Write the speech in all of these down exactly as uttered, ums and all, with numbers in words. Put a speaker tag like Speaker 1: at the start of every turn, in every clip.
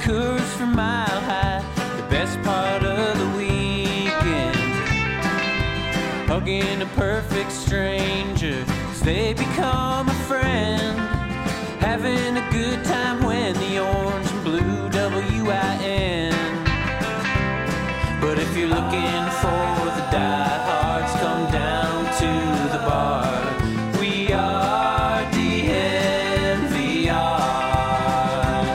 Speaker 1: Coors from Mile High, the best part of the weekend. Hugging a perfect stranger as they become a friend. Having a good time when the orange and blue W I N. But if you're looking for the diehards, come down to the bar. We are D N V R.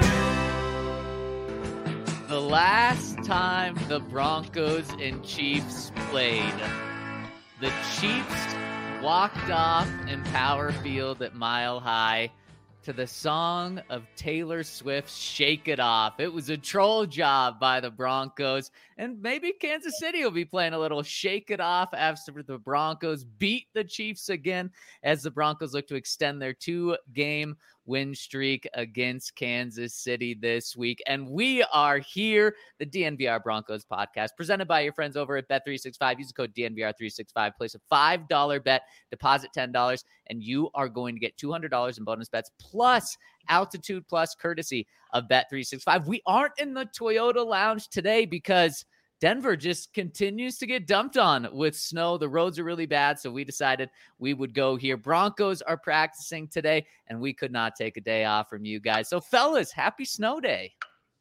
Speaker 2: The last time the Broncos and Chiefs played, the Chiefs walked off in Power Field at Mile High to the song of Taylor Swift's Shake It Off. It was a troll job by the Broncos, and maybe Kansas City will be playing a little Shake It Off after the Broncos beat the Chiefs again, as the Broncos look to extend their two-game win streak against Kansas City this week. And we are here, the D N V R Broncos podcast, presented by your friends over at Bet three sixty-five. Use the code D N V R three sixty-five. Place a five dollar bet, deposit ten dollars, and you are going to get two hundred dollars in bonus bets plus Altitude Plus, courtesy of Bet three sixty-five. We aren't in the Toyota Lounge today because Denver just continues to get dumped on with snow. The roads are really bad, so we decided we would go here. Broncos are practicing today, and we could not take a day off from you guys. So, fellas, happy snow day.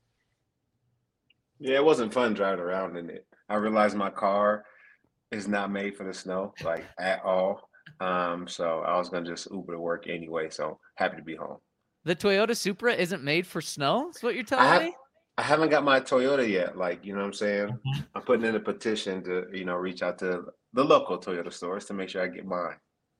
Speaker 3: Yeah, it wasn't fun driving around in it. I realized my car is not made for the snow, like, at all. Um, so I was going to just Uber to work anyway, so happy to be home.
Speaker 2: The Toyota Supra isn't made for snow? Is what you're telling
Speaker 3: I have,
Speaker 2: me?
Speaker 3: I haven't got my Toyota yet. Like, you know what I'm saying? Mm-hmm. I'm putting in a petition to, you know, reach out to the local Toyota stores to make sure I get mine.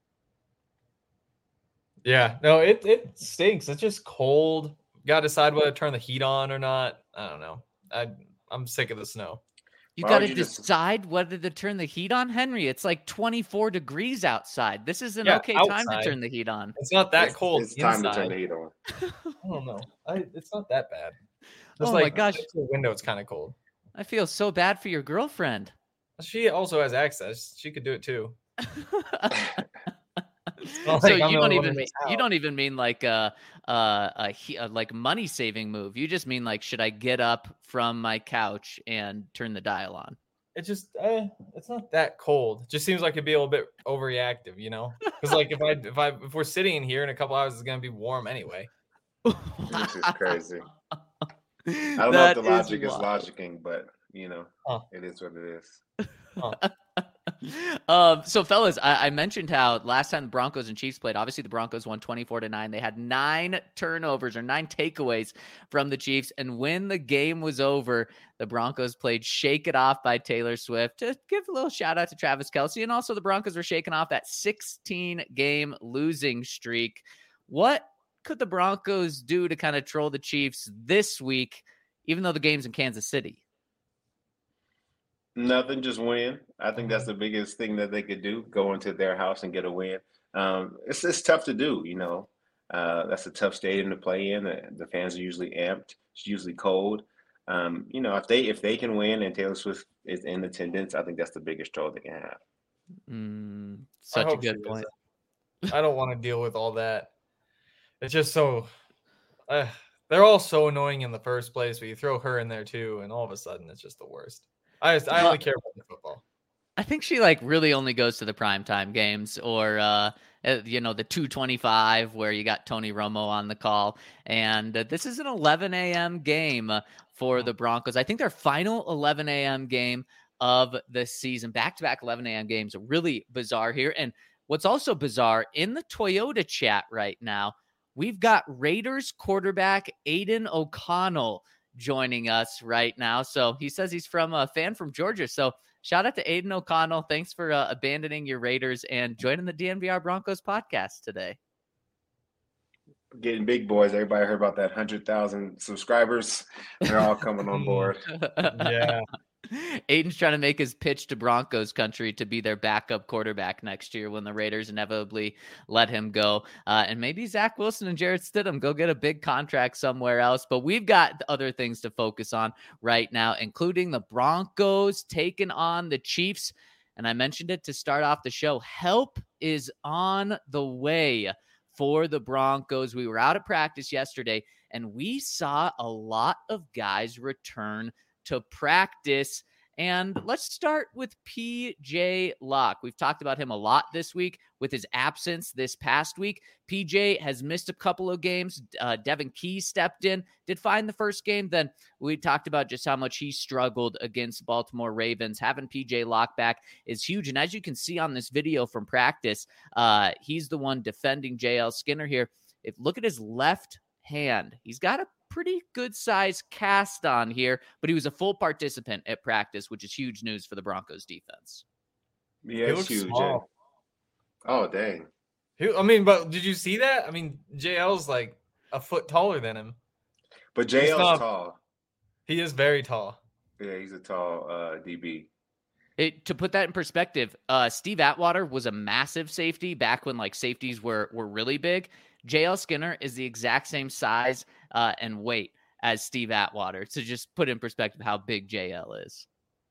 Speaker 4: Yeah, no, it, it stinks. It's just cold. Got to decide whether to turn the heat on or not. I don't know. I, I'm sick of the snow.
Speaker 2: You got to decide just... whether to turn the heat on, Henry. It's like twenty-four degrees outside. This is an yeah, okay outside. time to turn the heat on.
Speaker 4: It's not that
Speaker 3: it's,
Speaker 4: cold.
Speaker 3: It's
Speaker 4: inside.
Speaker 3: time to turn the heat on.
Speaker 4: I don't know. I, it's not that bad.
Speaker 2: Just
Speaker 4: oh
Speaker 2: like,
Speaker 4: my gosh,
Speaker 2: the
Speaker 4: window it's kind of cold.
Speaker 2: I feel so bad for your girlfriend.
Speaker 4: She also has access. She could do it too.
Speaker 2: So like you don't even mean, you don't even mean like a, a, a, a like money saving move. You just mean like, should I get up from my couch and turn the dial on?
Speaker 4: It just uh, it's not that cold. It just seems like it'd be a little bit overreactive, you know? Because like if I if I if we're sitting in here in a couple hours, it's gonna be warm anyway.
Speaker 3: This is crazy. I don't that know if the logic is, is logicking, but you know, huh. It is what it is.
Speaker 4: Huh.
Speaker 2: um, so, fellas, I, I mentioned how last time the Broncos and Chiefs played, obviously the Broncos won twenty-four to nine. They had nine turnovers or nine takeaways from the Chiefs. And when the game was over, the Broncos played Shake It Off by Taylor Swift to give a little shout out to Travis Kelce. And also the Broncos were shaking off that sixteen game losing streak. What could the Broncos do to kind of troll the Chiefs this week, even though the game's in Kansas City?
Speaker 3: Nothing, just win. I think that's the biggest thing that they could do, go into their house and get a win. Um, it's it's tough to do, you know. Uh, that's a tough stadium to play in. The, the fans are usually amped. It's usually cold. Um, you know, if they if they can win and Taylor Swift is in attendance, I think that's the biggest troll they can have.
Speaker 2: Mm, such a good point.
Speaker 4: I don't want to deal with all that. It's just so uh, they're all so annoying in the first place, but you throw her in there too, and all of a sudden it's just the worst. I just, I only care about the football.
Speaker 2: I think she like really only goes to the primetime games or, uh, you know, the two twenty-five where you got Tony Romo on the call. And uh, this is an eleven a.m. game for the Broncos. I think their final eleven a.m. game of the season. Back-to-back eleven a.m. games. Really bizarre here. And what's also bizarre, in the Toyota chat right now, we've got Raiders quarterback Aiden O'Connell joining us right now. So he says he's from a fan from Georgia. So shout out to Aiden O'Connell. Thanks for uh, abandoning your Raiders and joining the D N V R Broncos podcast today.
Speaker 3: Getting big boys. Everybody heard about that one hundred thousand subscribers. They're all coming on board.
Speaker 4: Yeah.
Speaker 2: Aiden's trying to make his pitch to Broncos country to be their backup quarterback next year when the Raiders inevitably let him go. Uh, and maybe Zach Wilson and Jarrett Stidham go get a big contract somewhere else. But we've got other things to focus on right now, including the Broncos taking on the Chiefs. And I mentioned it to start off the show. Help is on the way for the Broncos. We were out at practice yesterday, and we saw a lot of guys return to practice. And let's start with P J Locke. We've talked about him a lot this week with his absence this past week. P J has missed a couple of games. Uh, Devin Key stepped in, did fine the first game. Then we talked about just how much he struggled against Baltimore Ravens. Having P J Locke back is huge. And as you can see on this video from practice, uh, he's the one defending J L Skinner here. If look at his left hand, he's got a pretty good size cast on here, but he was a full participant at practice, which is huge news for the Broncos defense.
Speaker 3: Yeah,
Speaker 4: He
Speaker 3: it's
Speaker 4: looks
Speaker 3: huge.
Speaker 4: small.
Speaker 3: Oh, dang.
Speaker 4: He- I mean, but did you see that? I mean, J L's like a foot taller than him.
Speaker 3: But J L's
Speaker 4: not-
Speaker 3: tall.
Speaker 4: He is very tall.
Speaker 3: Yeah, he's a tall uh, D B.
Speaker 2: It, to put that in perspective, uh, Steve Atwater was a massive safety back when like safeties were were really big. J L Skinner is the exact same size uh, and weight as Steve Atwater. To just put in perspective how big J L is.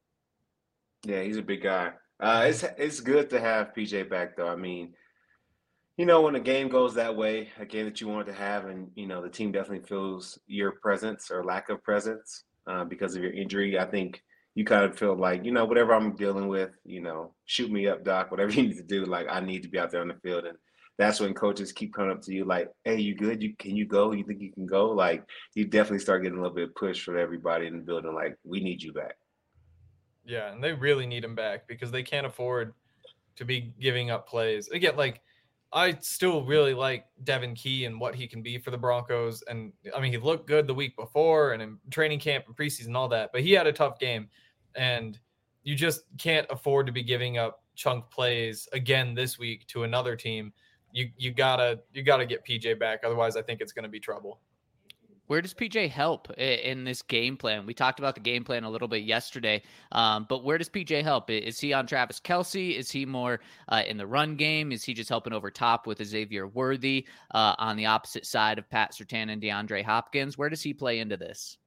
Speaker 3: Yeah, he's a big guy. Uh, it's it's good to have P J back, though. I mean, you know, when a game goes that way, a game that you want to have, and you know the team definitely feels your presence or lack of presence uh, because of your injury. I think you kind of feel like, you know, whatever I'm dealing with, you know, shoot me up, doc. Whatever you need to do, like I need to be out there on the field, and that's when coaches keep coming up to you like, "Hey, you good? You can you go? You think you can go?" Like you definitely start getting a little bit of push from everybody in the building. Like we need you back.
Speaker 4: Yeah, and they really need him back because they can't afford to be giving up plays. Again, like I still really like Devin Key and what he can be for the Broncos. And I mean, he looked good the week before and in training camp and preseason and all that, but he had a tough game. And you just can't afford to be giving up chunk plays again this week to another team. You you gotta you gotta get P J back. Otherwise, I think it's gonna be trouble.
Speaker 2: Where does P J help in this game plan? We talked about the game plan a little bit yesterday, um, but where does P J help? Is he on Travis Kelce? Is he more uh, in the run game? Is he just helping over top with Xavier Worthy uh, on the opposite side of Pat Surtain and DeAndre Hopkins? Where does he play into this?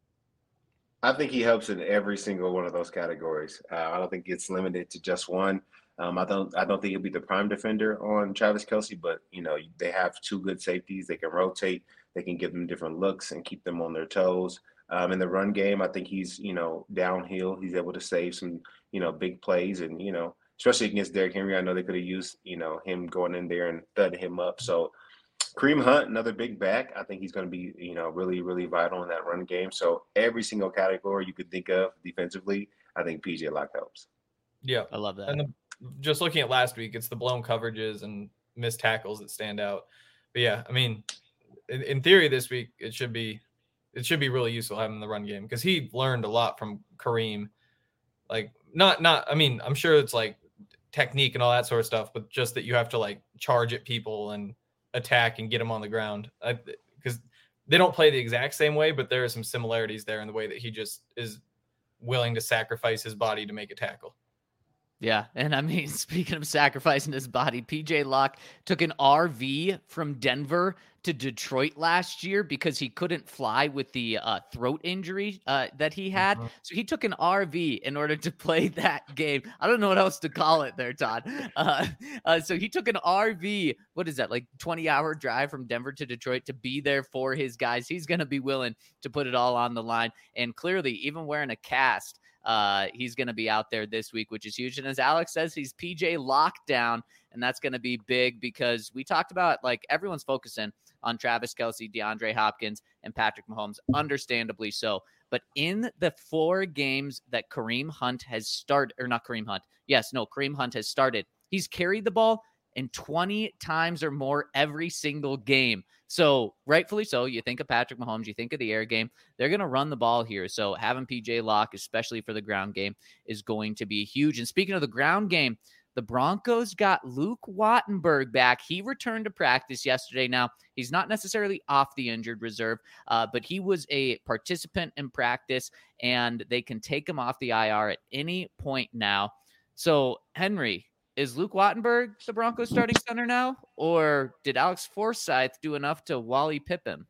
Speaker 3: I think he helps in every single one of those categories. Uh, I don't think it's limited to just one. Um, I don't. I don't think he'll be the prime defender on Travis Kelce, but you know they have two good safeties. They can rotate. They can give them different looks and keep them on their toes. Um, in the run game, I think he's you know downhill. He's able to save some you know big plays, and you know especially against Derrick Henry. I know they could have used you know him going in there and thudding him up. So Kareem Hunt, another big back. I think he's going to be you know really really vital in that run game. So every single category you could think of defensively, I think P J Locke helps.
Speaker 4: Yeah,
Speaker 2: I love that.
Speaker 4: And the, just looking at last week, it's the blown coverages and missed tackles that stand out. But yeah, I mean, in, in theory, this week it should be it should be really useful having the run game because he learned a lot from Kareem. Like, not not I mean, I'm sure it's like technique and all that sort of stuff, but just that you have to like charge at people and attack and get them on the ground because they don't play the exact same way, but there are some similarities there in the way that he just is willing to sacrifice his body to make a tackle.
Speaker 2: Yeah, and I mean, speaking of sacrificing his body, P J Locke took an R V from Denver to Detroit last year because he couldn't fly with the uh, throat injury uh, that he had. Mm-hmm. So he took an R V in order to play that game. I don't know what else to call it there, Todd. Uh, uh, so he took an R V, what is that, like twenty-hour drive from Denver to Detroit to be there for his guys. He's going to be willing to put it all on the line. And clearly, even wearing a cast, Uh, he's going to be out there this week, which is huge. And as Alex says, he's P J lockdown, and that's going to be big because we talked about, like, everyone's focusing on Travis Kelce, DeAndre Hopkins, and Patrick Mahomes, understandably so. But in the four games that Kareem Hunt has started, or not Kareem Hunt, yes, no, Kareem Hunt has started, he's carried the ball in twenty times or more every single game. So rightfully so, you think of Patrick Mahomes, you think of the air game, they're going to run the ball here. So having P J Locke, especially for the ground game, is going to be huge. And speaking of the ground game, the Broncos got Luke Wattenberg back. He returned to practice yesterday. Now, he's not necessarily off the injured reserve, uh, but he was a participant in practice, and they can take him off the I R at any point now. So, Henry, is Luke Wattenberg the Broncos starting center now, or did Alex Forsyth do enough to Wally Pippen?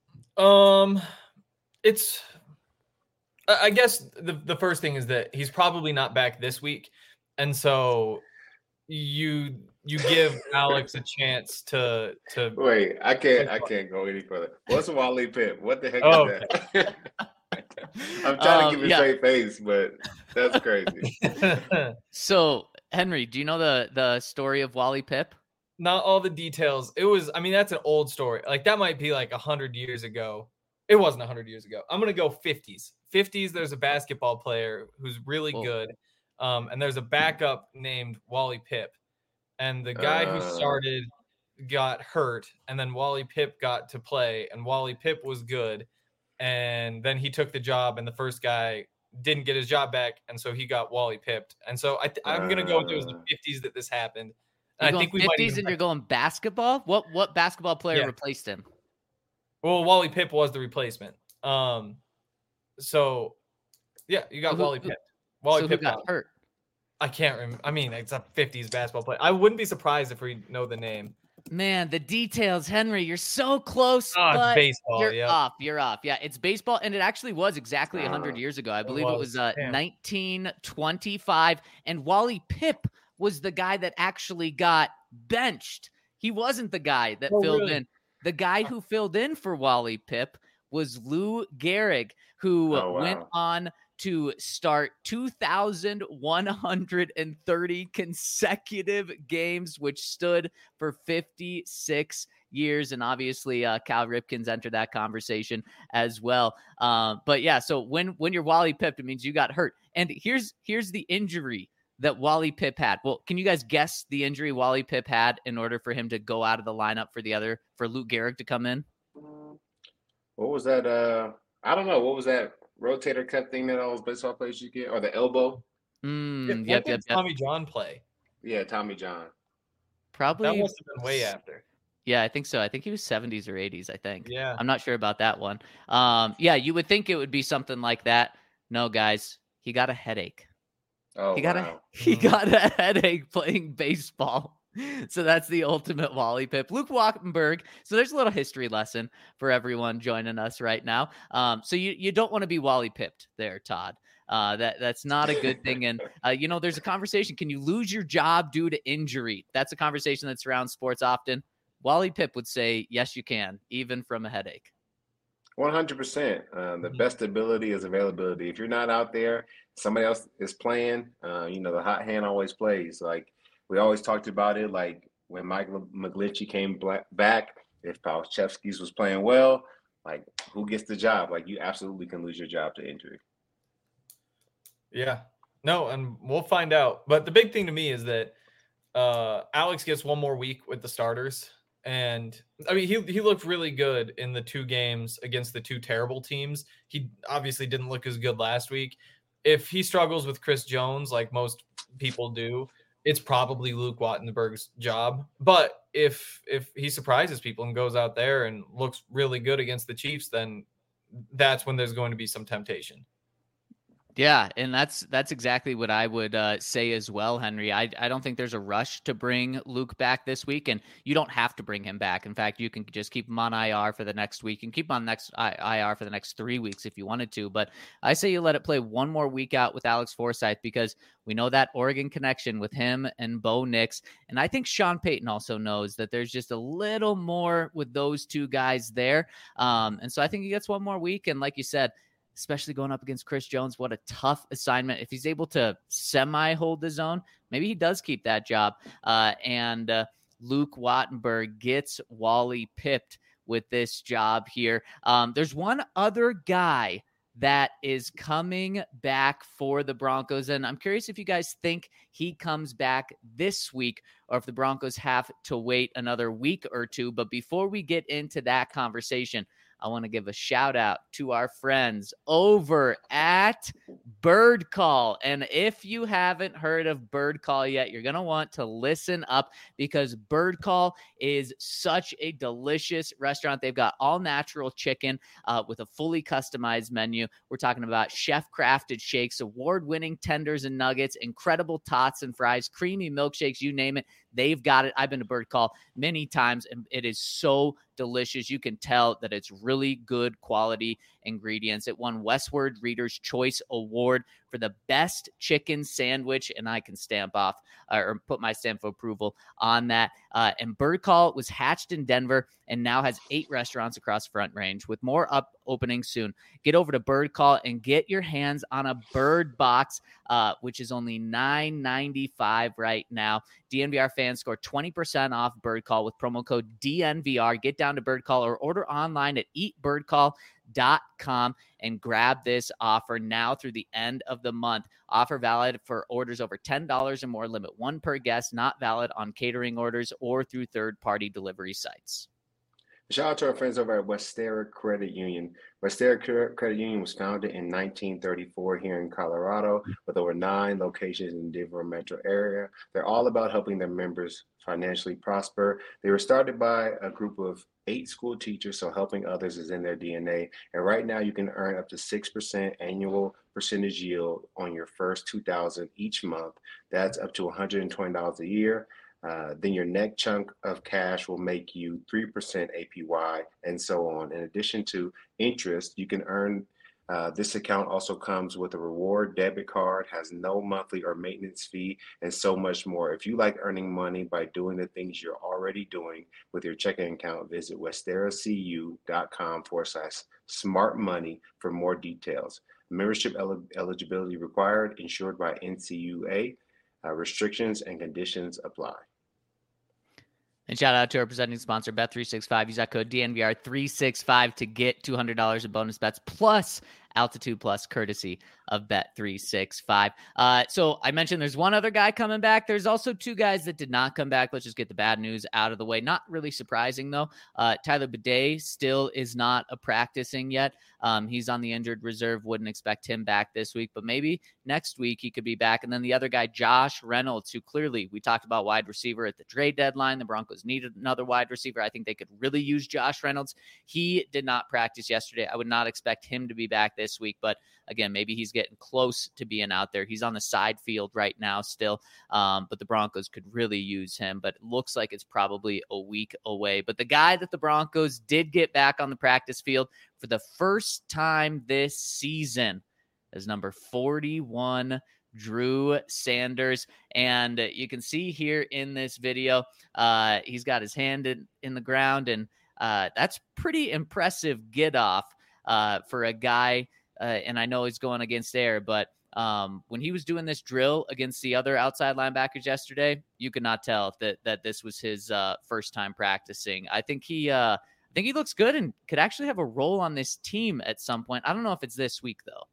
Speaker 4: Um, it's, I guess the, the first thing is that he's probably not back this week. And so you you give Alex a chance to to.
Speaker 3: Wait, I can't. I can't go any further. What's Wally Pip? What the heck
Speaker 4: Oh,
Speaker 3: is that? I'm trying
Speaker 2: Um,
Speaker 3: to keep a
Speaker 2: yeah.
Speaker 3: straight face, but that's crazy.
Speaker 2: So, Henry, do you know the the story of Wally Pip?
Speaker 4: Not all the details. It was. I mean, that's an old story. Like that might be like a hundred years ago. It wasn't a hundred years ago. I'm gonna go fifties. Fifties. There's a basketball player who's really
Speaker 2: Oh.
Speaker 4: good, um, and there's a backup named Wally Pip, and the guy who
Speaker 3: Uh.
Speaker 4: started got hurt, and then Wally Pip got to play, and Wally Pip was good, and then he took the job, and the first guy didn't get his job back, and so he got Wally Pipped. And so I th- I'm gonna go with it was the
Speaker 3: Uh.
Speaker 4: fifties that this happened.
Speaker 2: You're
Speaker 4: And I
Speaker 2: going
Speaker 4: think we might
Speaker 2: fifties
Speaker 4: even
Speaker 2: and you're going basketball? What what basketball player
Speaker 4: Yeah.
Speaker 2: replaced him?
Speaker 4: Well, Wally Pip was the replacement. Um, so yeah, you got
Speaker 2: So who-
Speaker 4: Wally
Speaker 2: who-
Speaker 4: Pip. Wally
Speaker 2: so who
Speaker 4: Pip
Speaker 2: got
Speaker 4: out.
Speaker 2: hurt?
Speaker 4: I can't remember. I mean, it's a fifties basketball player. I wouldn't be surprised if we know the name.
Speaker 2: Man, the details, Henry. You're so close,
Speaker 4: Oh, it's
Speaker 2: but
Speaker 4: baseball.
Speaker 2: you're
Speaker 4: Yeah.
Speaker 2: off. You're off. Yeah, it's baseball, and it actually was exactly one hundred
Speaker 3: Uh,
Speaker 2: years ago. I
Speaker 4: it
Speaker 2: believe it
Speaker 4: was.
Speaker 2: was uh,
Speaker 4: Damn.
Speaker 2: nineteen twenty-five, and Wally Pip was the guy that actually got benched. He wasn't the guy that
Speaker 4: Oh,
Speaker 2: filled
Speaker 4: really?
Speaker 2: in. The guy who filled in for Wally Pip was Lou Gehrig, who
Speaker 3: Oh,
Speaker 2: went
Speaker 3: wow.
Speaker 2: on to start two thousand one hundred thirty consecutive games, which stood for fifty-six years. And obviously, uh, Cal Ripken's entered that conversation as well. Um, but yeah, so when when you're Wally Pip, it means you got hurt. And here's here's the injury that Wally Pip had. Well, can you guys guess the injury Wally Pip had in order for him to go out of the lineup for the other for Lou Gehrig to come in?
Speaker 3: What was that? Uh, I don't know. What was that rotator cuff thing that all those baseball players you get, or the elbow?
Speaker 2: Mm,
Speaker 4: When
Speaker 2: yep,
Speaker 4: did
Speaker 2: yep, yep.
Speaker 4: Tommy John play?
Speaker 3: Yeah, Tommy John.
Speaker 2: Probably.
Speaker 4: That must have been way after.
Speaker 2: Yeah, I think so. I think he was seventies or eighties, I think.
Speaker 4: Yeah.
Speaker 2: I'm not sure about that one. Um, yeah, you would think it would be something like that. No, guys, he got a headache.
Speaker 3: Oh,
Speaker 2: he got
Speaker 3: wow.
Speaker 2: a he
Speaker 4: Mhm.
Speaker 2: got a headache playing baseball. So that's the ultimate Wally Pip. Luke Walkenberg. So there's a little history lesson for everyone joining us right now. Um, so you, you don't want to be Wally Pipped there, Todd. Uh, that that's not a good thing. And uh, you know, there's a conversation. Can you lose your job due to injury? That's a conversation that surrounds sports often. Wally Pip would say, yes, you can, even from a headache.
Speaker 3: one hundred percent. Uh, the
Speaker 4: Mhm.
Speaker 3: best ability is availability. If you're not out there, somebody else is playing. Uh, you know, the hot hand always plays. Like we always talked about it. Like when Mike McGlinchey came black, back, if Palchevsky's was playing well, like who gets the job? Like you absolutely can lose your job to injury.
Speaker 4: Yeah. No, and we'll find out. But the big thing to me is that uh, Alex gets one more week with the starters. And I mean, he he looked really good in the two games against the two terrible teams. He obviously didn't look as good last week. If he struggles with Chris Jones, like most people do, it's probably Luke Wattenberg's job. But if if he surprises people and goes out there and looks really good against the Chiefs, then that's when there's going to be some temptation.
Speaker 2: Yeah, and that's that's exactly what I would uh, say as well, Henry. I I don't think there's a rush to bring Luke back this week, and you don't have to bring him back. In fact, you can just keep him on I R for the next week and keep him on next I R for the next three weeks if you wanted to. But I say you let it play one more week out with Alex Forsyth because we know that Oregon connection with him and Bo Nix, and I think Sean Payton also knows that there's just a little more with those two guys there. Um, and so I think he gets one more week, and like you said, especially going up against Chris Jones, what a tough assignment. If he's able to semi hold the zone, maybe he does keep that job. Uh, and uh, Luke Wattenberg gets Wally Pipped with this job here. Um, there's one other guy that is coming back for the Broncos. And I'm curious if you guys think he comes back this week or if the Broncos have to wait another week or two. But before we get into that conversation, I want to give a shout out to our friends over at Bird Call. And if you haven't heard of Bird Call yet, you're going to want to listen up because Bird Call is such a delicious restaurant. They've got all natural chicken uh, with a fully customized menu. We're talking about chef crafted shakes, award winning tenders and nuggets, incredible tots and fries, creamy milkshakes, you name it. They've got it. I've been to Bird Call many times, and it is so delicious. You can tell that it's really good quality ingredients. It won Westward Reader's Choice Award for the best chicken sandwich, and I can stamp off uh, or put my stamp of approval on that. Uh, and Bird Call was hatched in Denver and now has eight restaurants across Front Range with more up opening soon. Get over to Bird Call and get your hands on a bird box, uh, which is only nine ninety-five right now. D N V R fans score twenty percent off Bird Call with promo code D N V R. Get down to Bird Call or order online at eat bird call dot com and grab this offer now through the end of the month. Offer valid for orders over ten dollars or more. Limit one per guest. Not valid on catering orders or through third-party delivery sites.
Speaker 3: Shout out to our friends over at Westera Credit Union. Westera Credit Union was founded in nineteen thirty-four here in Colorado with over nine locations in the Denver metro area. They're all about helping their members financially prosper. They were started by a group of eight school teachers, so helping others is in their D N A. And right now you can earn up to six percent annual percentage yield on your first two thousand dollars each month. That's up to one hundred twenty dollars a year. Uh, then your next chunk of cash will make you three percent A P Y and so on. In addition to interest, you can earn, uh, this account also comes with a reward debit card, has no monthly or maintenance fee, and so much more. If you like earning money by doing the things you're already doing with your checking account, visit westeracu.com forward slash smart money for more details. Membership el- eligibility required, insured by N C U A. Uh, restrictions and conditions apply.
Speaker 2: And shout out to our presenting sponsor, Bet three sixty-five. Use that code D N V R three sixty-five to get two hundred dollars in bonus bets plus Altitude Plus, courtesy of Bet three sixty-five. Uh, so I mentioned there's one other guy coming back. There's also two guys that did not come back. Let's just get the bad news out of the way. Not really surprising, though. Uh, Tyler Bidet still is not a practicing yet. Um, he's on the injured reserve. Wouldn't expect him back this week, but maybe next week he could be back. And then the other guy, Josh Reynolds, who clearly we talked about wide receiver at the trade deadline. The Broncos needed another wide receiver. I think they could really use Josh Reynolds. He did not practice yesterday. I would not expect him to be back this week, but again, maybe he's getting close to being out there. He's on the side field right now still, um, but the Broncos could really use him, but it looks like it's probably a week away. But the guy that the Broncos did get back on the practice field for the first time this season is number forty-one, Drew Sanders. And you can see here in this video, uh, he's got his hand in, in the ground, and uh, that's pretty impressive get off uh, for a guy. Uh, and I know he's going against air, but um, when he was doing this drill against the other outside linebackers yesterday, you could not tell that that this was his uh, first time practicing. I think he, uh, I think he looks good and could actually have a role on this team at some point. I don't know if it's this week though.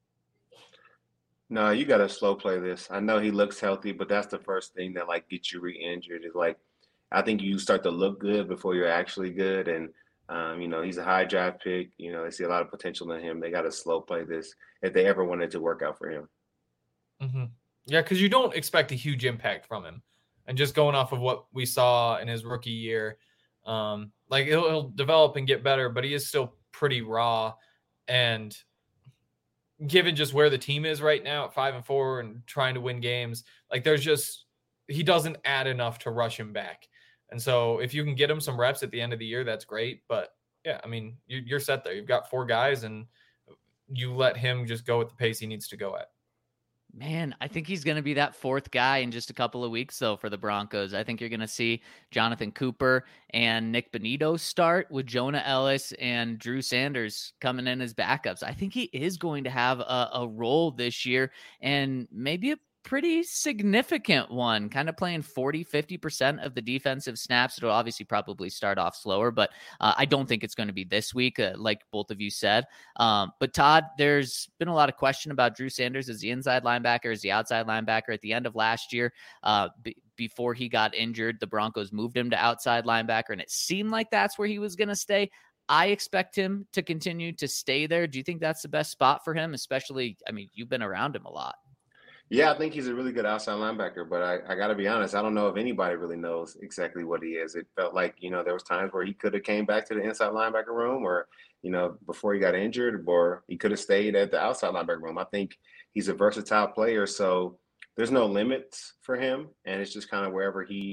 Speaker 3: No, you got to slow play this. I know he looks healthy, but that's the first thing that like gets you re-injured. Is like, I think you start to look good before you're actually good, and Um, you know, he's a high draft pick. You know, they see a lot of potential in him. They got to slow play this if they ever wanted to work out for him.
Speaker 4: Mm-hmm. Yeah, because you don't expect a huge impact from him. And just going off of what we saw in his rookie year, um, like he'll, he'll develop and get better, but he is still pretty raw. And given just where the team is right now at five and four and trying to win games, like there's just, he doesn't add enough to rush him back. And so if you can get him some reps at the end of the year, that's great. But yeah, I mean, you, you're set there. You've got four guys and you let him just go at the pace he needs to go at.
Speaker 2: Man, I think he's going to be that fourth guy in just a couple of weeks, though, for the Broncos. I think you're going to see Jonathan Cooper and Nick Benito start with Jonah Ellis and Drew Sanders coming in as backups. I think he is going to have a, a role this year, and maybe a pretty significant one, kind of playing forty, fifty percent of the defensive snaps. It'll obviously probably start off slower, but uh, I don't think it's going to be this week, uh, like both of you said. Um, but Todd, there's been a lot of question about Drew Sanders as the inside linebacker, as the outside linebacker. At the end of last year, uh, b- before he got injured, the Broncos moved him to outside linebacker, and it seemed like that's where he was going to stay. I expect him to continue to stay there. Do you think that's the best spot for him? Especially, I mean, you've been around him a lot.
Speaker 3: Yeah, I think he's a really good outside linebacker, but I, I got to be honest, I don't know if anybody really knows exactly what he is. It felt like, you know, there was times where he could have came back to the inside linebacker room or, you know, before he got injured, or he could have stayed at the outside linebacker room. I think he's a versatile player, so there's no limits for him, and it's just kind of wherever he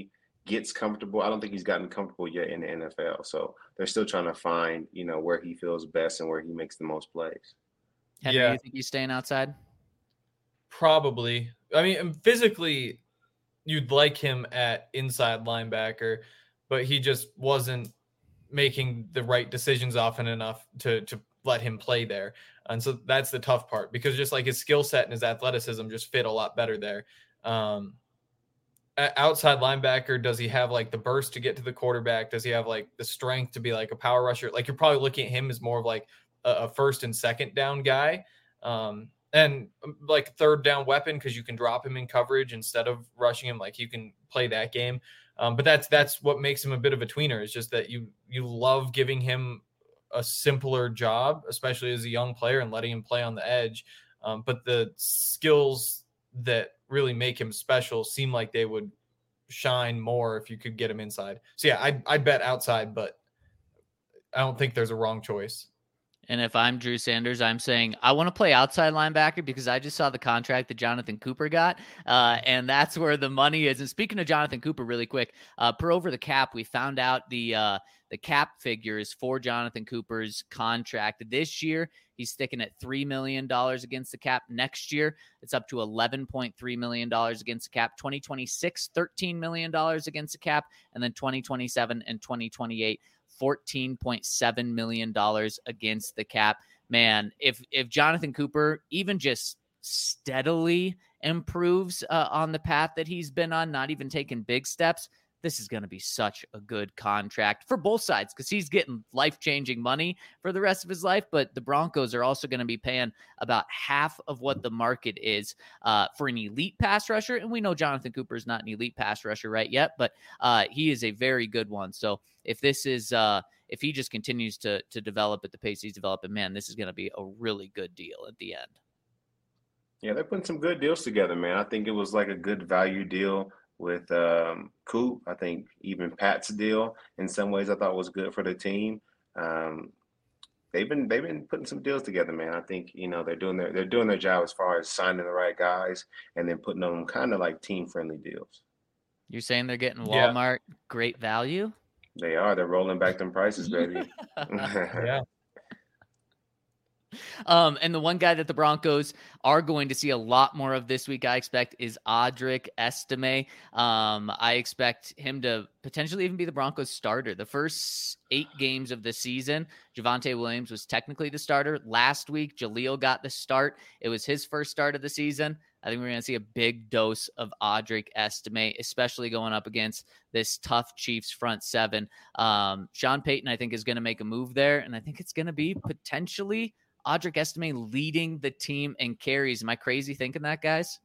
Speaker 3: gets comfortable. I don't think he's gotten comfortable yet in the N F L. So they're still trying to find, you know, where he feels best and where he makes the most plays.
Speaker 2: Henry,
Speaker 4: Yeah.
Speaker 2: you think he's staying outside?
Speaker 4: Probably. I mean, physically, you'd like him at inside linebacker, but he just wasn't making the right decisions often enough to to let him play there. And so that's the tough part, because just like his skill set and his athleticism just fit a lot better there. Um, outside linebacker, does he have like the burst to get to the quarterback? Does he have like the strength to be like a power rusher? Like, you're probably looking at him as more of like a, a first and second down guy. Um, and like third down weapon, because you can drop him in coverage instead of rushing him. Like, you can play that game. Um, but that's that's what makes him a bit of a tweener. Is just that you you love giving him a simpler job, especially as a young player, and letting him play on the edge. Um, but the skills that really make him special seem like they would shine more if you could get him inside. So yeah, I'd, I'd bet outside, but I don't think there's a wrong choice.
Speaker 2: And if I'm Drew Sanders, I'm saying I want to play outside linebacker because I just saw the contract that Jonathan Cooper got, uh, and that's where the money is. And speaking of Jonathan Cooper, really quick, uh, per over the cap, we found out the uh, the cap figures for Jonathan Cooper's contract this year. He's sticking at three million dollars against the cap. Next year, it's up to eleven point three million dollars against the cap. twenty twenty-six, thirteen million dollars against the cap. And then twenty twenty-seven and twenty twenty-eight, fourteen point seven million dollars against the cap. Man, if if Jonathan Cooper even just steadily improves uh, on the path that he's been on, not even taking big steps, this is going to be such a good contract for both sides, because he's getting life-changing money for the rest of his life, but the Broncos are also going to be paying about half of what the market is uh, for an elite pass rusher. And we know Jonathan Cooper is not an elite pass rusher right yet, but uh, he is a very good one. So if this is, uh, if he just continues to to develop at the pace he's developing, man, this is going to be a really good deal at the end.
Speaker 3: Yeah, they're putting some good deals together, man. I think it was like a good value deal with um, Coop. I think even Pat's deal in some ways I thought was good for the team. Um, they've been they've been putting some deals together, man. I think, you know, they're doing their they're doing their job as far as signing the right guys and then putting them kind of like team friendly deals.
Speaker 2: You're saying they're getting
Speaker 4: Yeah.
Speaker 2: Walmart great value?
Speaker 3: They are. They're rolling back them prices, baby.
Speaker 4: Yeah.
Speaker 2: Um, and the one guy that the Broncos are going to see a lot more of this week, I expect, is Audric Estime. Um, I expect him to potentially even be the Broncos starter. The first eight games of the season, Javonte Williams was technically the starter. Last week, Jaleel got the start. It was his first start of the season. I think we're going to see a big dose of Audric Estime, especially going up against this tough Chiefs front seven. Um, Sean Payton, I think, is going to make a move there, and I think it's going to be potentially Audric Estime leading the team in carries. Am I crazy thinking that, guys?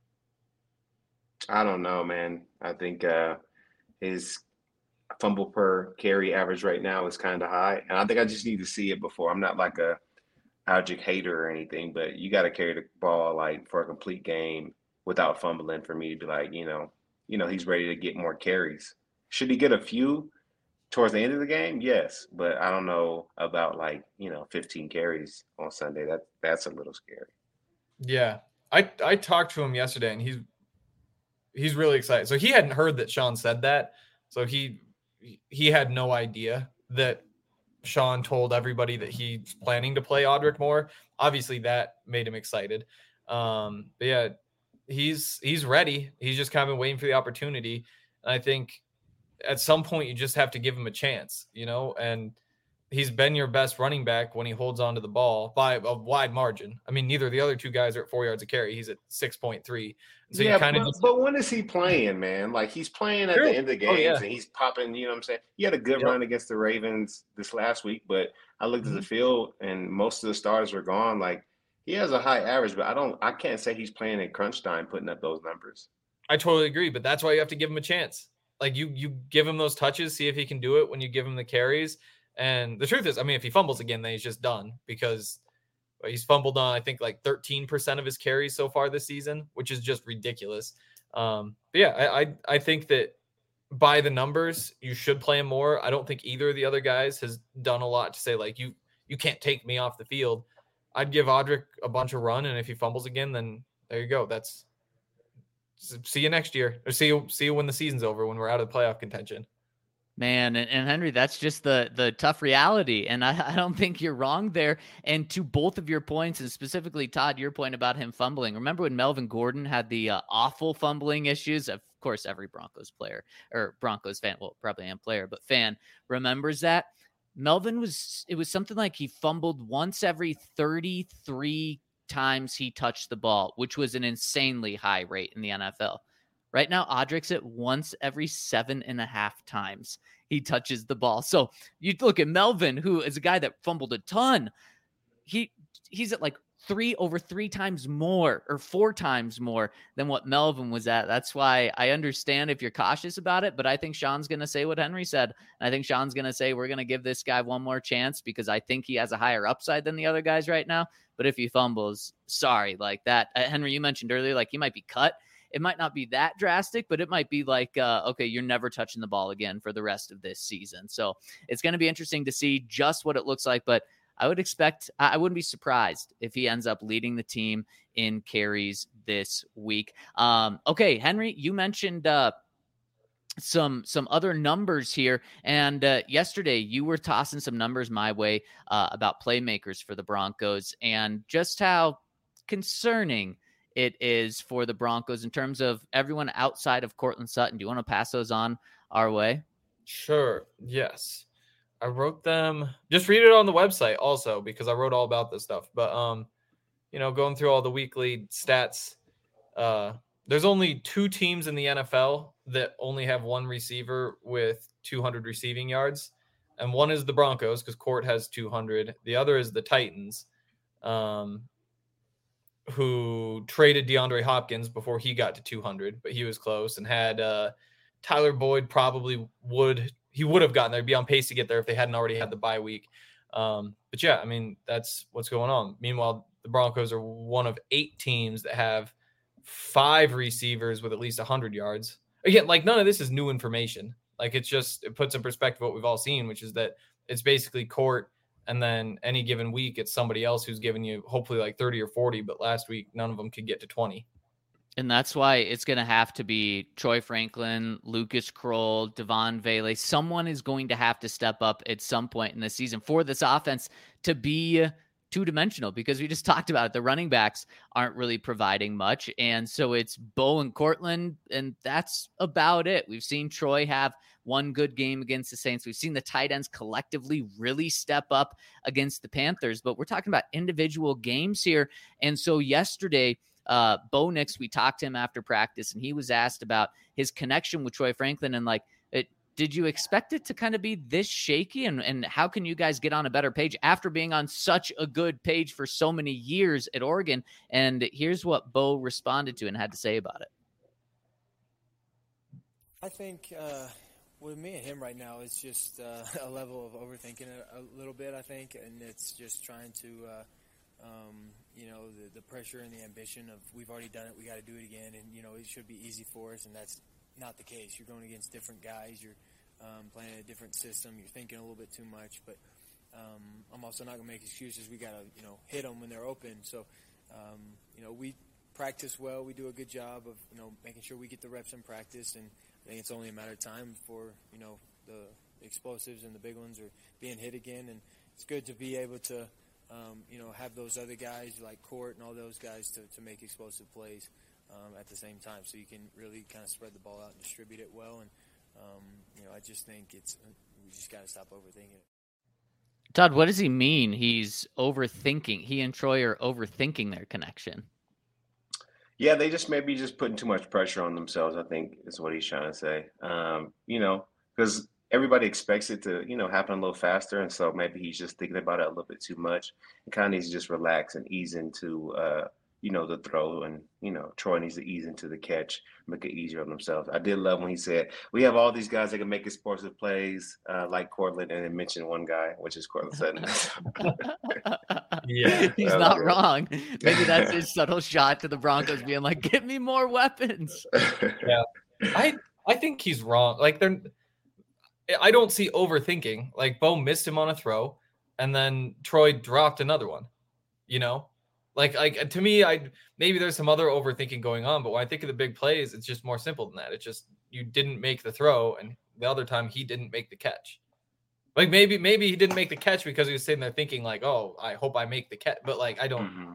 Speaker 3: I don't know, man. I think uh, his fumble per carry average right now is kind of high, and I think I just need to see it before. I'm not like a Audric hater or anything, but you got to carry the ball like for a complete game without fumbling for me to be like, you know, you know, he's ready to get more carries. Should he get a few towards the end of the game? Yes, but I don't know about like, you know, fifteen carries on Sunday. That that's a little scary.
Speaker 4: Yeah. I, I talked to him yesterday, and he's he's really excited. So he hadn't heard that Sean said that. So he he had no idea that Sean told everybody that he's planning to play Audric more. Obviously that made him excited. Um, but yeah, he's he's ready. He's just kind of been waiting for the opportunity. And I think at some point you just have to give him a chance, you know, and he's been your best running back when he holds onto the ball by a wide margin. I mean, neither of the other two guys are at four yards a carry. He's at six point three. So
Speaker 3: yeah,
Speaker 4: you kind of
Speaker 3: but,
Speaker 4: just,
Speaker 3: but when is he playing, man? Like, he's playing at
Speaker 4: True.
Speaker 3: the end of the games,
Speaker 4: Oh, yeah.
Speaker 3: and he's popping, you know what I'm saying? He had a good
Speaker 4: Yep.
Speaker 3: run against the Ravens this last week, but I looked
Speaker 4: Mhm.
Speaker 3: at the field, and most of the starters were gone. Like, he has a high average, but I don't, I can't say he's playing in crunch time putting up those numbers.
Speaker 4: I totally agree, but that's why you have to give him a chance. Like you, you give him those touches, see if he can do it when you give him the carries. And the truth is, I mean, if he fumbles again, then he's just done, because he's fumbled on, I think, like thirteen percent of his carries so far this season, which is just ridiculous. Um, but yeah, I, I, I think that by the numbers, you should play him more. I don't think either of the other guys has done a lot to say, like, you, you can't take me off the field. I'd give Audric a bunch of run, and if he fumbles again, then there you go. That's see you next year, or see you see you when the season's over, when we're out of playoff contention.
Speaker 2: Man, and, and Henry, that's just the the tough reality. And I, I don't think you're wrong there. And to both of your points, and specifically, Todd, your point about him fumbling. Remember when Melvin Gordon had the uh, awful fumbling issues? Of course, every Broncos player or Broncos fan, well, probably am player, but fan remembers that. Melvin was, it was something like he fumbled once every thirty-three times he touched the ball, which was an insanely high rate in the N F L. Right now, Audrick's at once every seven and a half times he touches the ball. So you look at Melvin, who is a guy that fumbled a ton. He he's at like three over three times more or four times more than what Melvin was at. That's why I understand if you're cautious about it, but I think Sean's going to say what Henry said. And I think Sean's going to say, we're going to give this guy one more chance because I think he has a higher upside than the other guys right now. But if he fumbles, sorry, like that. Uh, Henry, you mentioned earlier, like he might be cut. It might not be that drastic, but it might be like, uh, okay, you're never touching the ball again for the rest of this season. So it's going to be interesting to see just what it looks like. But I would expect, I wouldn't be surprised if he ends up leading the team in carries this week. Um, okay, Henry, you mentioned uh, some some other numbers here. And uh, yesterday you were tossing some numbers my way uh, about playmakers for the Broncos and just how concerning it is for the Broncos in terms of everyone outside of Courtland Sutton. Do you want to pass those on our way?
Speaker 4: Sure. Yes. I wrote them. Just read it on the website also, because I wrote all about this stuff. But, um, you know, going through all the weekly stats, uh, there's only two teams in the N F L that only have one receiver with two hundred receiving yards. And one is the Broncos because Court has two hundred. The other is the Titans. Um, who traded DeAndre Hopkins before he got to two hundred, but he was close and had uh, Tyler Boyd probably would, he would have gotten there, be on pace to get there if they hadn't already had the bye week. Um, but yeah, I mean, that's what's going on. Meanwhile, the Broncos are one of eight teams that have five receivers with at least one hundred yards. Again, like none of this is new information. Like it's just, it puts in perspective what we've all seen, which is that it's basically Court, and then any given week, it's somebody else who's giving you hopefully like thirty or forty. But last week, none of them could get to twenty.
Speaker 2: And that's why it's going to have to be Troy Franklin, Lucas Kroll, Devon Vele. Someone is going to have to step up at some point in the season for this offense to be two-dimensional, because we just talked about it. The running backs aren't really providing much. And so it's Bo and Courtland, and that's about it. We've seen Troy have one good game against the Saints. We've seen the tight ends collectively really step up against the Panthers, but we're talking about individual games here. And so yesterday, uh, Bo Nix, we talked to him after practice, and he was asked about his connection with Troy Franklin. And like, it, did you expect it to kind of be this shaky? And, and how can you guys get on a better page after being on such a good page for so many years at Oregon? And here's what Bo responded to and had to say about it.
Speaker 5: I think, uh, with me and him right now, it's just uh, a level of overthinking it a little bit, I think, and it's just trying to, uh, um, you know, the, the pressure and the ambition of we've already done it, we got to do it again, and, you know, it should be easy for us, and that's not the case. You're going against different guys, you're um, playing a different system, you're thinking a little bit too much, but um, I'm also not going to make excuses. We got to, you know, hit them when they're open. So, um, you know, we practice well, we do a good job of, you know, making sure we get the reps in practice, and I think it's only a matter of time for, you know, the explosives and the big ones are being hit again. And it's good to be able to, um, you know, have those other guys like Court and all those guys to, to make explosive plays um, at the same time. So you can really kind of spread the ball out and distribute it well. And, um, you know, I just think it's, we just got to stop overthinking it.
Speaker 2: Todd, what does he mean? He's overthinking. He and Troy are overthinking their connection.
Speaker 3: Yeah, they just maybe just putting too much pressure on themselves, I think is what he's trying to say. Um, you know, because everybody expects it to, you know, happen a little faster. And so maybe he's just thinking about it a little bit too much and kind of needs to just relax and ease into, uh, you know, the throw. And, you know, Troy needs to ease into the catch, make it easier on themselves. I did love when he said, we have all these guys that can make explosive plays uh, like Courtland, and then mentioned one guy, which is Courtland Sutton.
Speaker 4: Yeah,
Speaker 2: he's not wrong. Maybe that's his subtle shot to the Broncos being like, "Give me more weapons."
Speaker 4: Yeah, I I think he's wrong. Like they're, I don't see overthinking. Like Bo missed him on a throw, and then Troy dropped another one. You know, Like, like to me, I maybe there's some other overthinking going on, but when I think of the big plays, it's just more simple than that. It's just you didn't make the throw, and the other time he didn't make the catch. Like maybe maybe he didn't make the catch because he was sitting there thinking like, oh, I hope I make the catch. But like I don't,
Speaker 3: Mm-hmm.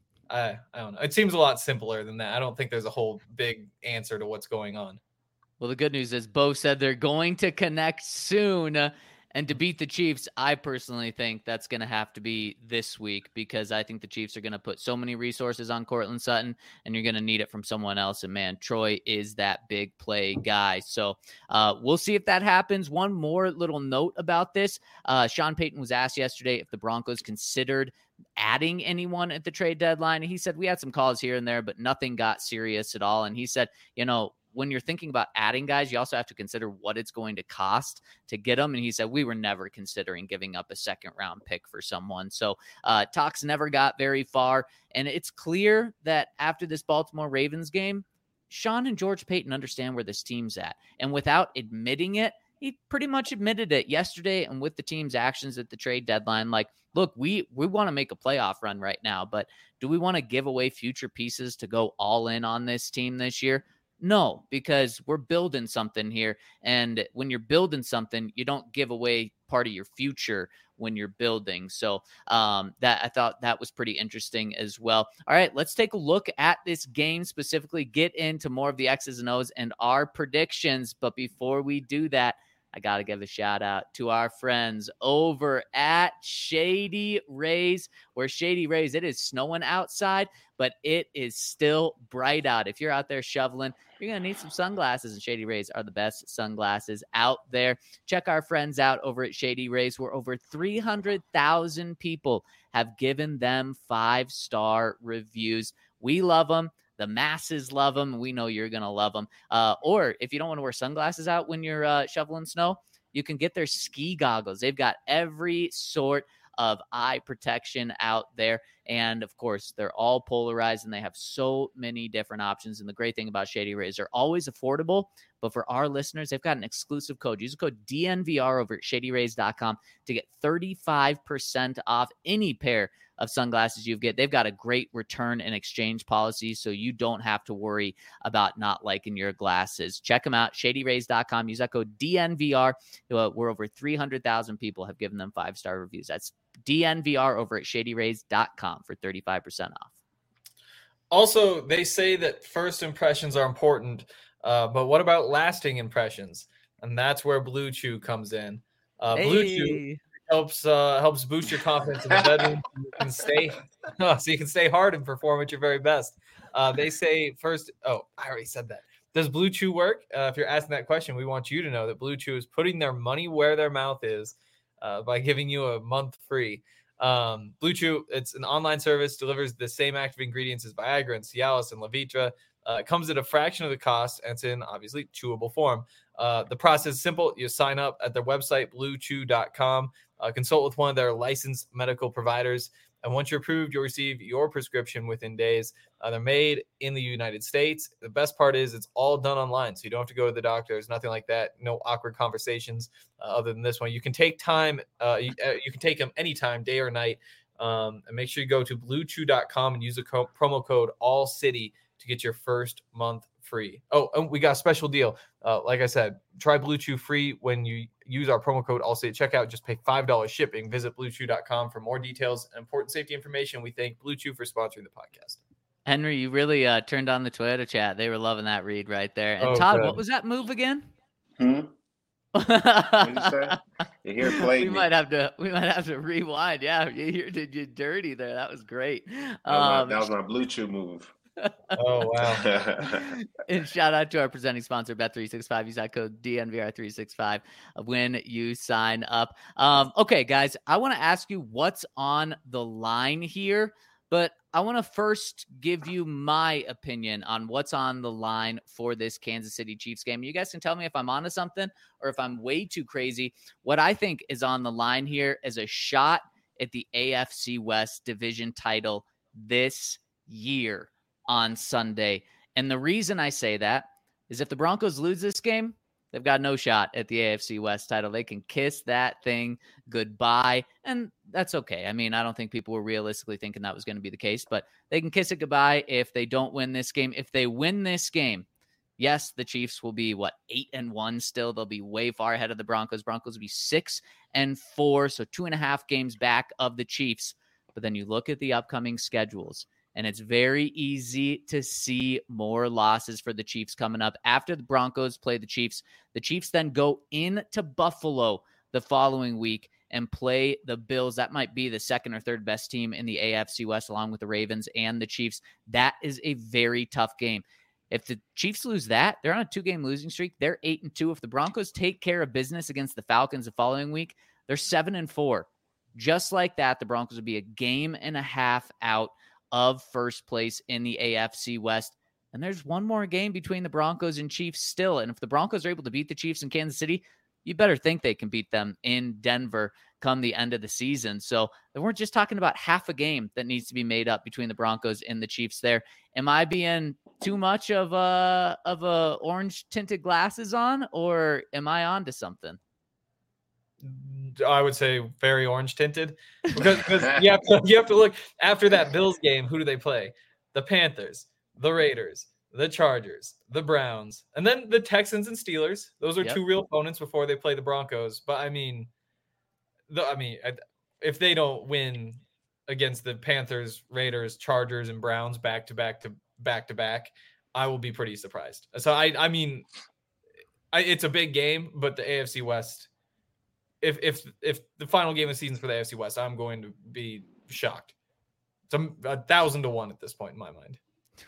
Speaker 4: I I don't know. It seems a lot simpler than that. I don't think there's a whole big answer to what's going on.
Speaker 2: Well, the good news is Bo said they're going to connect soon. uh, And to beat the Chiefs, I personally think that's going to have to be this week because I think the Chiefs are going to put so many resources on Cortland Sutton, and you're going to need it from someone else. And, man, Troy is that big play guy. So uh, we'll see if that happens. One more little note about this. Uh, Sean Payton was asked yesterday if the Broncos considered adding anyone at the trade deadline. He said, we had some calls here and there, but nothing got serious at all. And he said, you know, when you're thinking about adding guys, you also have to consider what it's going to cost to get them. And he said, we were never considering giving up a second round pick for someone. So uh, talks never got very far. And it's clear that after this Baltimore Ravens game, Sean and George Payton understand where this team's at. And without admitting it, he pretty much admitted it yesterday and with the team's actions at the trade deadline. Like, look, we, we want to make a playoff run right now, but do we want to give away future pieces to go all in on this team this year? No, because we're building something here. And when you're building something, you don't give away part of your future when you're building. So um, that I thought that was pretty interesting as well. All right, let's take a look at this game specifically, get into more of the X's and O's and our predictions. But before we do that, I got to give a shout out to our friends over at Shady Rays, where Shady Rays, it is snowing outside, but it is still bright out. If you're out there shoveling, you're going to need some sunglasses, and Shady Rays are the best sunglasses out there. Check our friends out over at Shady Rays, where over three hundred thousand people have given them five-star reviews. We love them. The masses love them. We know you're going to love them. Uh, or if you don't want to wear sunglasses out when you're uh, shoveling snow, you can get their ski goggles. They've got every sort of eye protection out there. And of course, they're all polarized and they have so many different options. And the great thing about Shady Rays, they're always affordable. But for our listeners, they've got an exclusive code. Use the code D N V R over at shady rays dot com to get thirty-five percent off any pair of sunglasses you get. They've got a great return and exchange policy, so you don't have to worry about not liking your glasses. Check them out, shady rays dot com. Use that code D N V R. Uh, we're over three hundred thousand people have given them five-star reviews. That's D N V R over at shady rays dot com for thirty-five percent off.
Speaker 4: Also, they say that first impressions are important, uh, but what about lasting impressions? And that's where Blue Chew comes in. Uh, Blue
Speaker 2: Hey.
Speaker 4: Chew helps uh, helps boost your confidence in the bedroom. So you can stay, so you can stay hard and perform at your very best. Uh, they say first. Oh, I already said that. Does Blue Chew work? Uh, if you're asking that question, we want you to know that Blue Chew is putting their money where their mouth is uh, by giving you a month free. Um, Blue Chew, it's an online service, delivers the same active ingredients as Viagra and Cialis and Levitra. Uh, it comes at a fraction of the cost, and it's in obviously chewable form. Uh, the process is simple. You sign up at their website, blue chew dot com. Uh, consult with one of their licensed medical providers. And once you're approved, you'll receive your prescription within days. Uh, they're made in the United States. The best part is it's all done online, so you don't have to go to the doctor. There's nothing like that. No awkward conversations uh, other than this one. You can take time. Uh, you, uh, you can take them anytime, day or night. Um, and make sure you go to blue chew dot com and use the co- promo code ALLCITY to get your first month free. Oh, and we got a special deal. Uh, like I said, try Blue Chew free when you use our promo code ALLCITY at checkout. Just pay five dollars shipping. Visit blue chew dot com for more details and important safety information. We thank Blue Chew for sponsoring the podcast.
Speaker 2: Henry, you really uh, turned on the Toyota chat. They were loving that read right there. And
Speaker 4: Oh,
Speaker 2: Todd,
Speaker 4: good.
Speaker 2: what was that move again?
Speaker 3: Hmm? What did you say? You hear
Speaker 2: we
Speaker 3: played me.
Speaker 2: might have to we might have to rewind. Yeah, you here did you dirty there. That was great.
Speaker 3: That was my-
Speaker 2: Um,
Speaker 3: that was my Blue Chew move.
Speaker 4: Oh, wow.
Speaker 2: and shout out to our presenting sponsor, Bet three sixty-five. Use that code D N V R three sixty-five when you sign up. Um, okay, guys, I want to ask you what's on the line here, but I want to first give you my opinion on what's on the line for this Kansas City Chiefs game. You guys can tell me if I'm onto something or if I'm way too crazy. What I think is on the line here is a shot at the A F C West division title this year on Sunday. And the reason I say that is if the Broncos lose this game, they've got no shot at the A F C West title. They can kiss that thing goodbye, and that's okay. I mean, I don't think people were realistically thinking that was going to be the case, but they can kiss it goodbye if they don't win this game. If they win this game, yes, the Chiefs will be, what, eight and one still. They'll be way far ahead of the Broncos. Broncos will be six and four, so two and a half games back of the Chiefs. But then you look at the upcoming schedules, and it's very easy to see more losses for the Chiefs coming up. After the Broncos play the Chiefs, the Chiefs then go into Buffalo the following week and play the Bills. That might be the second or third best team in the A F C West, along with the Ravens and the Chiefs. That is a very tough game. If the Chiefs lose that, they're on a two-game losing streak. They're eight and two. If the Broncos take care of business against the Falcons the following week, they're seven and four. Just like that, the Broncos would be a game and a half out of first place in the A F C West. And there's one more game between the Broncos and Chiefs still. And if the Broncos are able to beat the Chiefs in Kansas City, you better think they can beat them in Denver come the end of the season. So they weren't just talking about half a game that needs to be made up between the Broncos and the Chiefs there. Am I being too much of a of a orange tinted glasses on, or am I on to something?
Speaker 4: I would say very orange tinted, because, because you, have to, you have to look after that Bills game. Who do they play? The Panthers, the Raiders, the Chargers, the Browns, and then the Texans and Steelers. Those are
Speaker 2: Yep.
Speaker 4: two real opponents before they play the Broncos. But I mean, the, I mean, if they don't win against the Panthers, Raiders, Chargers, and Browns back to back to back to back, I will be pretty surprised. So I, I mean, I, it's a big game, but the A F C West. If if if the final game of the season for the A F C West, I'm going to be shocked. It's a, a thousand to one at this point in my mind.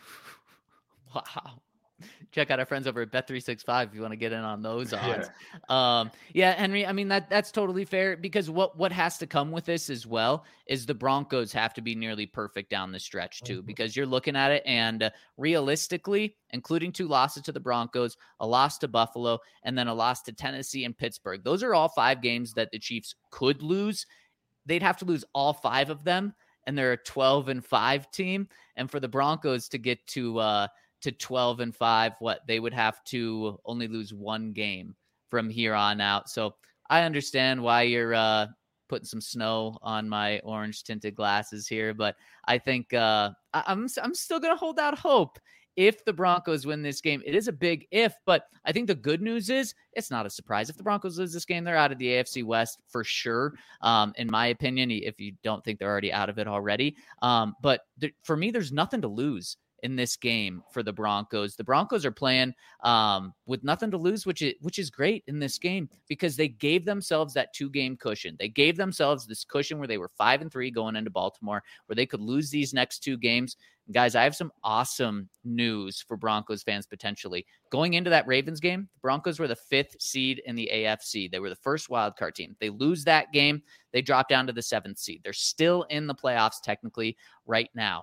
Speaker 2: Wow. Check out our friends over at Bet three sixty-five if you want to get in on those odds. Yeah. Um, yeah, Henry, I mean, that that's totally fair, because what, what has to come with this as well is the Broncos have to be nearly perfect down the stretch too, mm-hmm. because you're looking at it and uh, realistically, including two losses to the Broncos, a loss to Buffalo, and then a loss to Tennessee and Pittsburgh. Those are all five games that the Chiefs could lose. They'd have to lose all five of them, and they're a twelve and five team. And for the Broncos to get to uh, to twelve and five, what they would have to only lose one game from here on out. So I understand why you're uh, putting some snow on my orange tinted glasses here, but I think uh, I- I'm I'm still gonna hold out hope. If the Broncos win this game, it is a big if, but I think the good news is it's not a surprise. If the Broncos lose this game, they're out of the A F C West for sure, um, in my opinion, if you don't think they're already out of it already. Um, but th- for me, there's nothing to lose in this game for the Broncos. The Broncos are playing um, with nothing to lose, which is, which is great in this game, because they gave themselves that two game cushion. They gave themselves this cushion where they were five and three going into Baltimore, where they could lose these next two games. And guys, I have some awesome news for Broncos fans potentially. Going into that Ravens game, the Broncos were the fifth seed in the A F C. They were the first wildcard team. They lose that game, they drop down to the seventh seed. They're still in the playoffs technically right now.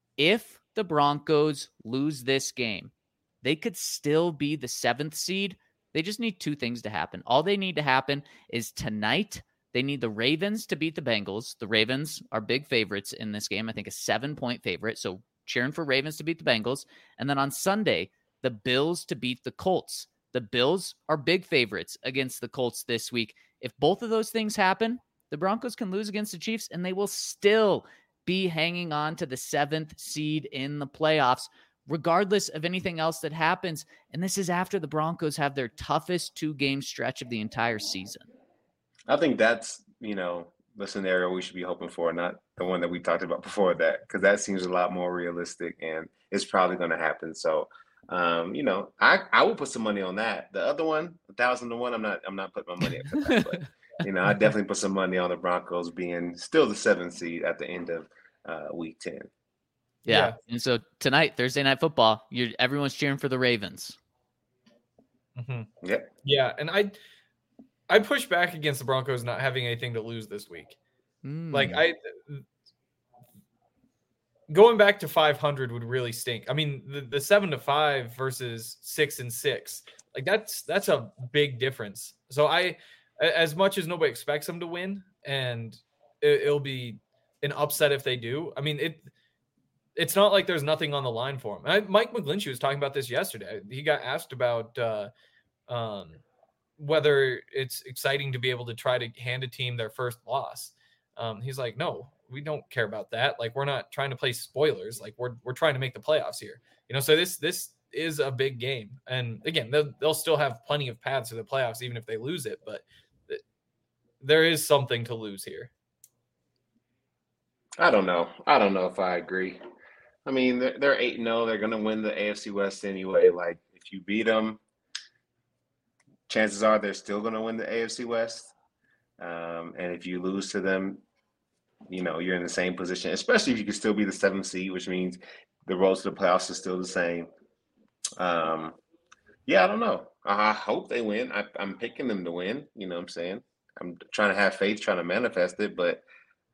Speaker 2: If the Broncos lose this game, they could still be the seventh seed. They just need two things to happen. All they need to happen is tonight, they need the Ravens to beat the Bengals. The Ravens are big favorites in this game. I think a seven-point favorite. So cheering for Ravens to beat the Bengals. And then on Sunday, the Bills to beat the Colts. The Bills are big favorites against the Colts this week. If both of those things happen, the Broncos can lose against the Chiefs, and they will still be hanging on to the seventh seed in the playoffs, regardless of anything else that happens. And this is after the Broncos have their toughest two-game stretch of the entire season.
Speaker 3: I think that's, you know, the scenario we should be hoping for, not the one that we talked about before that, because that seems a lot more realistic, and it's probably going to happen. So, um, you know, I, I will put some money on that. The other one, a thousand to one, I'm not I'm not putting my money up for that, but you know, I definitely put some money on the Broncos being still the seventh seed at the end of uh, week ten.
Speaker 2: Yeah.
Speaker 4: Yeah.
Speaker 2: And so tonight, Thursday Night Football, you're everyone's cheering for the Ravens.
Speaker 4: Mm-hmm.
Speaker 3: Yep.
Speaker 4: Yeah, and I I push back against the Broncos not having anything to lose this week.
Speaker 2: Mm.
Speaker 4: Like I going back to five hundred would really stink. I mean, the, the seven to five versus six and six, like that's that's a big difference. So I, as much as nobody expects them to win, and it, it'll be an upset if they do. I mean, it it's not like there's nothing on the line for him. I, Mike McGlinchey was talking about this yesterday. He got asked about uh, Um, whether it's exciting to be able to try to hand a team their first loss. Um, he's like, no, we don't care about that. Like, we're not trying to play spoilers. Like, we're we're trying to make the playoffs here. You know, so this this is a big game. And again, they'll, they'll still have plenty of paths to the playoffs, even if they lose it. But th- there is something to lose here.
Speaker 3: I don't know. I don't know if I agree. I mean, they're, they're eight and oh. They're going to win the A F C West anyway. Like, if you beat them, chances are they're still going to win the A F C West. Um, and if you lose to them, you know, you're in the same position, especially if you can still be the seventh seed, which means the road to the playoffs is still the same. Um, yeah, I don't know. I hope they win. I, I'm picking them to win. You know what I'm saying? I'm trying to have faith, trying to manifest it, but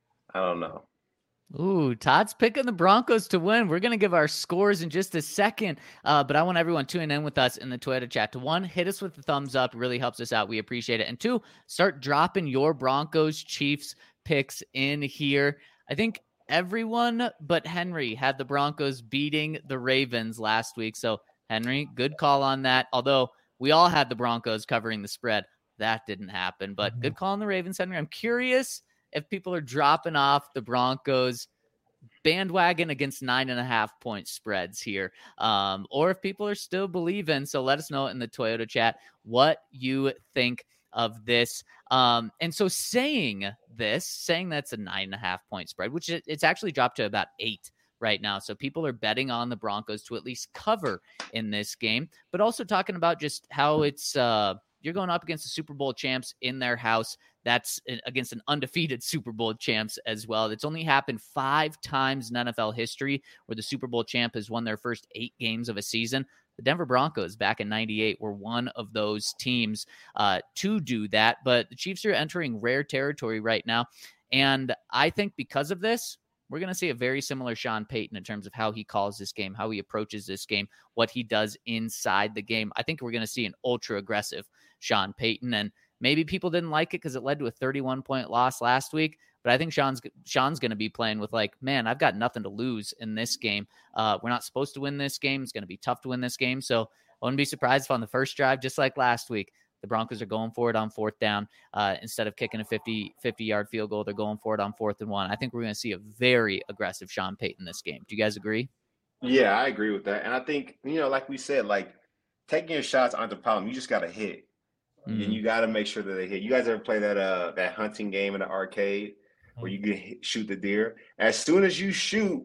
Speaker 3: I don't know.
Speaker 2: Ooh, Todd's picking the Broncos to win. We're going to give our scores in just a second, uh, but I want everyone tuning in with us in the Twitter chat to, one, hit us with the thumbs up. It really helps us out. We appreciate it. And two, start dropping your Broncos Chiefs picks in here. I think everyone but Henry had the Broncos beating the Ravens last week. So, Henry, good call on that. Although we all had the Broncos covering the spread. That didn't happen, but mm-hmm. good call on the Ravens, Henry. I'm curious if people are dropping off the Broncos bandwagon against nine and a half point spreads here, um, or if people are still believing. So let us know in the Toyota chat what you think of this. Um, and so saying this, saying that's a nine and a half point spread, which it, it's actually dropped to about eight right now. So people are betting on the Broncos to at least cover in this game, but also talking about just how it's, uh, you're going up against the Super Bowl champs in their house. That's against an undefeated Super Bowl champs as well. It's only happened five times in N F L history where the Super Bowl champ has won their first eight games of a season. The Denver Broncos back in ninety-eight were one of those teams uh, to do that. But the Chiefs are entering rare territory right now. And I think because of this, we're going to see a very similar Sean Payton in terms of how he calls this game, how he approaches this game, what he does inside the game. I think we're going to see an ultra aggressive Sean Payton. And maybe people didn't like it because it led to a thirty-one point loss last week. But I think Sean's Sean's going to be playing with like, man, I've got nothing to lose in this game. Uh, we're not supposed to win this game. It's going to be tough to win this game. So I wouldn't be surprised if on the first drive, just like last week, the Broncos are going for it on fourth down. Uh, instead of kicking a fifty, fifty-yard field goal, they're going for it on fourth and one. I think we're going to see a very aggressive Sean Payton this game. Do you guys agree?
Speaker 3: Yeah, I agree with that. And I think, you know, like we said, like taking your shots aren't the problem. You just got to hit. Mm. And you got to make sure that they hit. You guys ever play that uh that hunting game in the arcade where you can hit, shoot the deer? As soon as you shoot,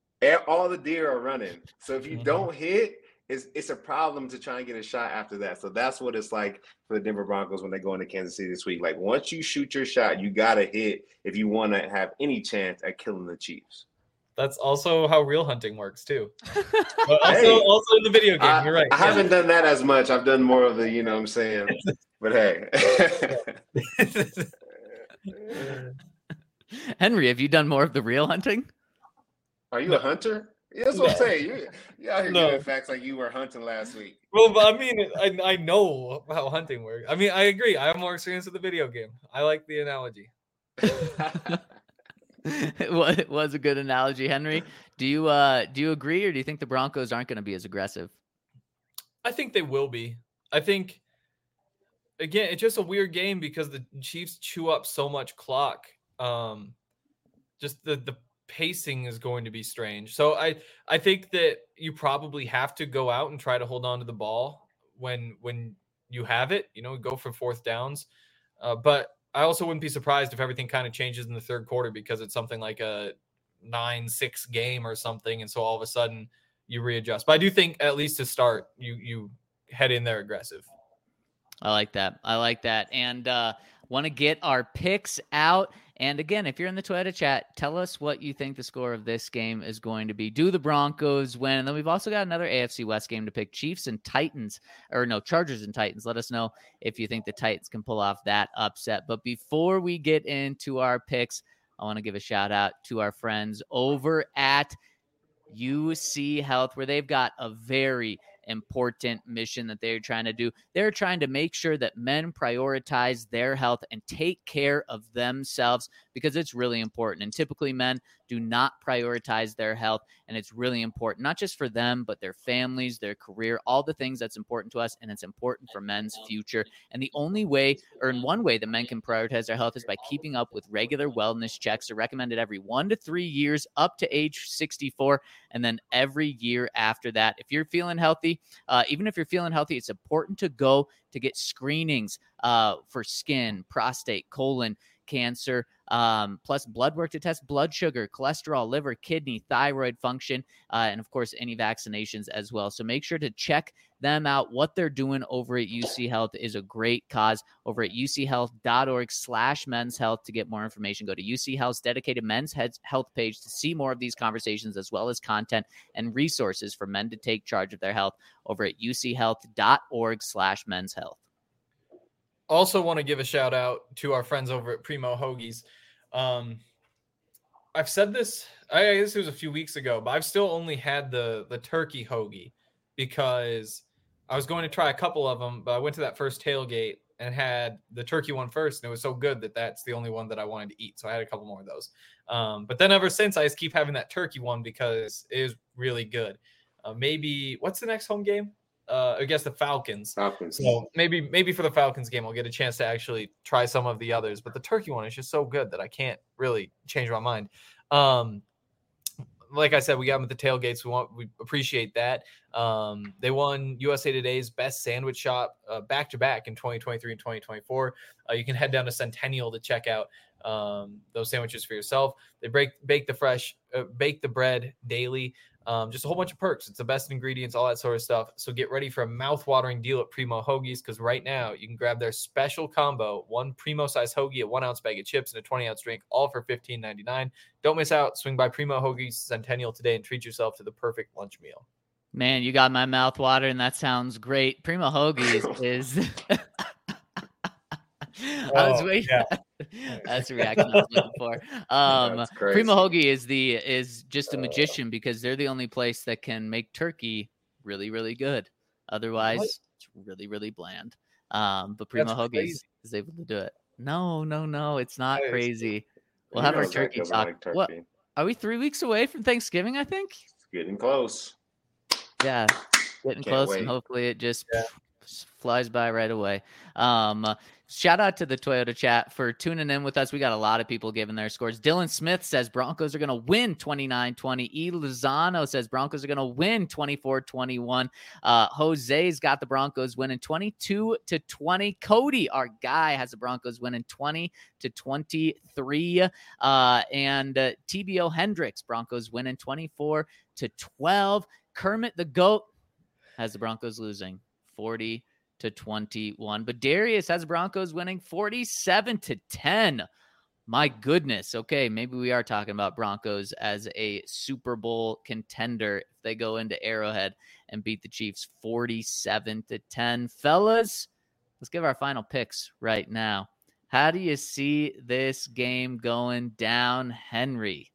Speaker 3: all the deer are running. So if you mm-hmm. don't hit, it's it's a problem to try and get a shot after that. So that's what it's like for the Denver Broncos when they go into Kansas City this week. Like once you shoot your shot, you got to hit if you want to have any chance at killing the Chiefs.
Speaker 4: That's also how real hunting works too. But also, hey, also in the video game,
Speaker 3: I,
Speaker 4: you're right.
Speaker 3: I yeah. haven't done that as much. I've done more of the, you know what I'm saying? But hey.
Speaker 2: Henry, have you done more of the real hunting?
Speaker 3: Are you no. a hunter? Yeah, that's what I'm saying. You, you out here no. giving facts like you were hunting last week.
Speaker 4: Well, but I mean, I, I know how hunting works. I mean, I agree. I have more experience with the video game. I like the analogy.
Speaker 2: It was a good analogy, Henry. Do you uh do you agree, or do you think the Broncos aren't going to be as aggressive?
Speaker 4: I think they will be. I think again, it's just a weird game because the Chiefs chew up so much clock. Um, just the the pacing is going to be strange. So I I think that you probably have to go out and try to hold on to the ball when when you have it. You know, go for fourth downs, uh, but. I also wouldn't be surprised if everything kind of changes in the third quarter because it's something like a nine six game or something. And so all of a sudden you readjust. But I do think at least to start, you you head in there aggressive.
Speaker 2: I like that. I like that. And uh, want to get our picks out. And again, if you're in the Twitter chat, tell us what you think the score of this game is going to be. Do the Broncos win? And then we've also got another A F C West game to pick, Chiefs and Titans, or no, Chargers and Titans. Let us know if you think the Titans can pull off that upset. But before we get into our picks, I want to give a shout out to our friends over at U C Health, where they've got a very important mission that they're trying to do. They're trying to make sure that men prioritize their health and take care of themselves because it's really important. And typically men do not prioritize their health, and it's really important, not just for them, but their families, their career, all the things that's important to us, and it's important for men's future. And the only way, or in one way that men can prioritize their health is by keeping up with regular wellness checks. They're recommended every one to three years up to age sixty-four, and then every year after that. If you're feeling healthy, uh, even if you're feeling healthy, it's important to go to get screenings uh, for skin, prostate, colon cancer, um, plus blood work to test blood sugar, cholesterol, liver, kidney, thyroid function, uh, and of course, any vaccinations as well. So make sure to check them out. What they're doing over at U C Health is a great cause. Over at uchealth.org slash men's health to get more information. Go to U C Health's dedicated men's health page to see more of these conversations, as well as content and resources for men to take charge of their health over at uchealth.org slash men's health.
Speaker 4: Also want to give a shout out to our friends over at Primo Hoagies. Um, I've said this, I guess it was a few weeks ago, but I've still only had the, the turkey hoagie because I was going to try a couple of them, but I went to that first tailgate and had the turkey one first, and it was so good that that's the only one that I wanted to eat. So I had a couple more of those. Um, but then ever since, I just keep having that turkey one because it is really good. Uh, maybe, what's the next home game? Uh, I guess the Falcons.
Speaker 3: Falcons.
Speaker 4: So maybe maybe for the Falcons game, I'll get a chance to actually try some of the others. But the turkey one is just so good that I can't really change my mind. Um, like I said, we got them at the tailgates. We want we appreciate that. Um, they won U S A Today's best sandwich shop uh, back to back in twenty twenty-three and twenty twenty-four. Uh, you can head down to Centennial to check out um, those sandwiches for yourself. They break bake the fresh, uh, bake the bread daily. Um, just a whole bunch of perks. It's the best ingredients, all that sort of stuff. So get ready for a mouth-watering deal at Primo Hoagies, because right now you can grab their special combo, one Primo-size hoagie, a one-ounce bag of chips, and a twenty-ounce drink, all for fifteen ninety-nine. Don't miss out. Swing by Primo Hoagies Centennial today and treat yourself to the perfect lunch meal.
Speaker 2: Man, you got my mouth watering. That sounds great. Primo Hoagies is... I was
Speaker 4: Oh,
Speaker 2: waiting.
Speaker 4: yeah.
Speaker 2: That's the reaction I was looking for. Um,
Speaker 3: That's crazy.
Speaker 2: Primo Hoagie is the is just a magician because they're the only place that can make turkey really, really good. Otherwise,
Speaker 4: What?
Speaker 2: it's really, really bland. Um, but Primo
Speaker 4: That's
Speaker 2: Hoagie is,
Speaker 4: crazy.
Speaker 2: is able to do it. No, no, no, it's not
Speaker 4: That is-
Speaker 2: crazy. We'll
Speaker 3: You
Speaker 2: have
Speaker 3: know
Speaker 2: our
Speaker 3: Zach
Speaker 2: turkey
Speaker 3: doesn't
Speaker 2: talk.
Speaker 3: like turkey.
Speaker 2: What are we three weeks away from Thanksgiving? I think.
Speaker 3: It's getting close.
Speaker 2: Yeah, getting
Speaker 3: Can't
Speaker 2: close,
Speaker 3: wait.
Speaker 2: and hopefully it just
Speaker 4: Yeah.
Speaker 2: s- flies by right away. Um, uh, shout out to the Toyota chat for tuning in with us. We got a lot of people giving their scores. Dylan Smith says Broncos are going to win twenty-nine twenty. E. Lozano says Broncos are going to win twenty-four twenty-one. Uh, Jose's got the Broncos winning twenty-two to twenty. Cody, our guy, has the Broncos winning twenty to twenty-three. Uh, and uh, T B O Hendricks, Broncos winning twenty-four to twelve. Kermit the Goat has the Broncos losing forty to twenty-one. But Darius has the Broncos winning forty-seven to ten. My goodness. Okay, maybe we are talking about Broncos as a Super Bowl contender if they go into Arrowhead and beat the Chiefs forty-seven to ten. Fellas, let's give our final picks right now. How do you see this game going down, Henry?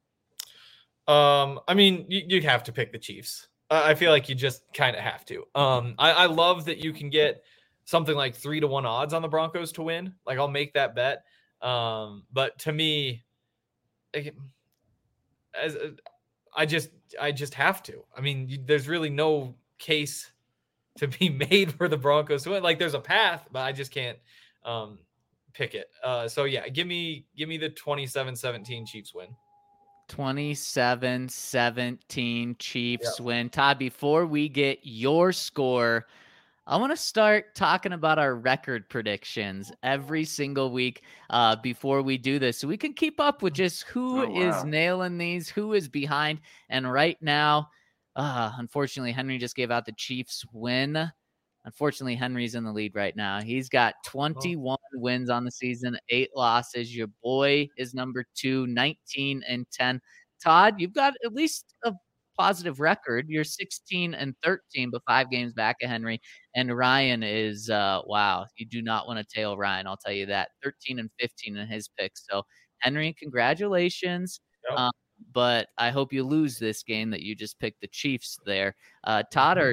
Speaker 4: Um, I mean, you, you'd have to pick the Chiefs. Uh, I feel like you just kind of have to. Um, I, I love that you can get something like three to one odds on the Broncos to win. Like, I'll make that bet. Um, but to me, like, as I just, I just have to. I mean, you, there's really no case to be made for the Broncos to win. Like, there's a path, but I just can't um, pick it. Uh, so yeah, give me, give me the twenty-seven seventeen Chiefs win.
Speaker 2: twenty-seven seventeen Chiefs win. Todd, before we get your score, I want to start talking about our record predictions every single week uh, before we do this, so we can keep up with just who
Speaker 3: Oh,
Speaker 2: is
Speaker 3: wow.
Speaker 2: nailing these, who is behind. And right now, uh, unfortunately, Henry just gave out the Chiefs win. Unfortunately, Henry's in the lead right now. He's got twenty-one wins on the season, eight losses. Your boy is number two, nineteen and ten. Todd, you've got at least a positive record. You're sixteen and thirteen, but five games back of Henry. And Ryan is, uh, wow, you do not want to tail Ryan. I'll tell you that. thirteen and fifteen in his picks. So, Henry, congratulations.
Speaker 4: Yep.
Speaker 2: Um, but I hope you lose this game that you just picked the Chiefs there. Uh, Todd, are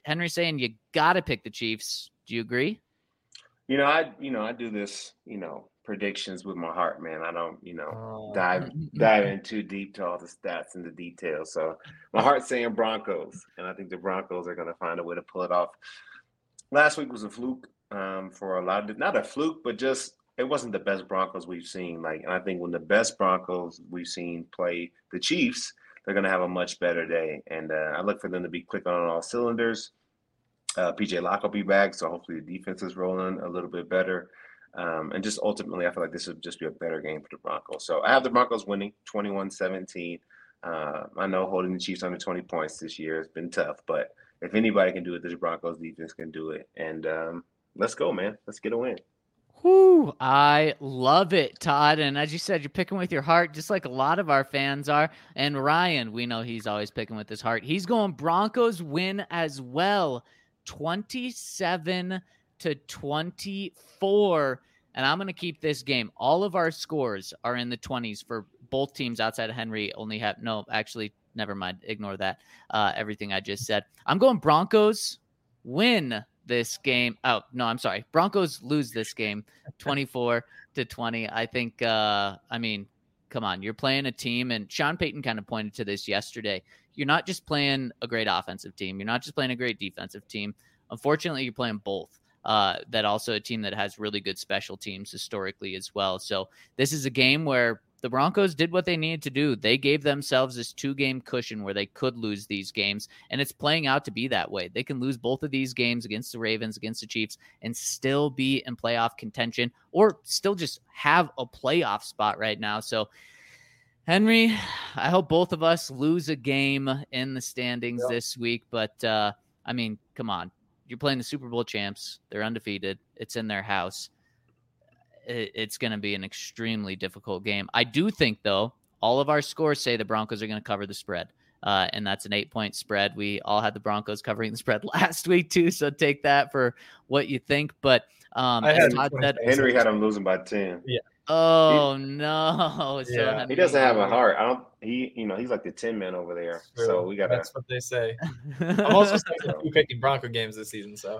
Speaker 2: Henry's saying you got to pick the Chiefs. Do you agree?
Speaker 3: You know, I you know I do this you know predictions with my heart, man. I don't you know
Speaker 4: Oh.
Speaker 3: dive dive in too deep to all the stats and the details. So my heart's saying Broncos, and I think the Broncos are going to find a way to pull it off. Last week was a fluke um, for a lot of not a fluke, but just it wasn't the best Broncos we've seen. Like, and I think when the best Broncos we've seen play the Chiefs, they're going to have a much better day. And uh, I look for them to be clicking on all cylinders. Uh, P J Locke will be back, so hopefully the defense is rolling a little bit better. Um, and just ultimately, I feel like this would just be a better game for the Broncos. So I have the Broncos winning twenty-one seventeen. Uh, I know holding the Chiefs under twenty points this year has been tough, but if anybody can do it, this Broncos defense can do it. And um, let's go, man. Let's get a win.
Speaker 2: Whew, I love it, Todd. And as you said, you're picking with your heart, just like a lot of our fans are. And Ryan, we know he's always picking with his heart. He's going Broncos win as well. twenty-seven to twenty-four. And I'm going to keep this game. All of our scores are in the twenties for both teams outside of Henry. Only have no, actually, never mind. Ignore that. Uh, everything I just said. I'm going Broncos win this game. Oh, no, I'm sorry. Broncos lose this game twenty-four to twenty. I think, uh, I mean, come on. You're playing a team, and Sean Payton kind of pointed to this yesterday. You're not just playing a great offensive team. You're not just playing a great defensive team. Unfortunately, you're playing both. Uh, that also a team that has really good special teams historically as well. So this is a game where the Broncos did what they needed to do. They gave themselves this two-game cushion where they could lose these games, and it's playing out to be that way. They can lose both of these games against the Ravens, against the Chiefs, and still be in playoff contention, or still just have a playoff spot right now. So Henry, I hope both of us lose a game in the standings
Speaker 4: Yep.
Speaker 2: this week. But, uh, I mean, come on. You're playing the Super Bowl champs. They're undefeated. It's in their house. It, it's going to be an extremely difficult game. I do think, though, all of our scores say the Broncos are going to cover the spread. Uh, and that's an eight-point spread. We all had the Broncos covering the spread last week, too. So take that for what you think. But um,
Speaker 4: I
Speaker 2: as
Speaker 4: had
Speaker 2: Todd said,
Speaker 3: Henry had him losing by ten.
Speaker 2: oh, no. So
Speaker 4: Yeah.
Speaker 2: Henry-
Speaker 3: He doesn't have a heart. I don't. He, you know, he's like the tin man over there. So we gotta.
Speaker 4: That's what they say. I'm also still picking Bronco games this season, so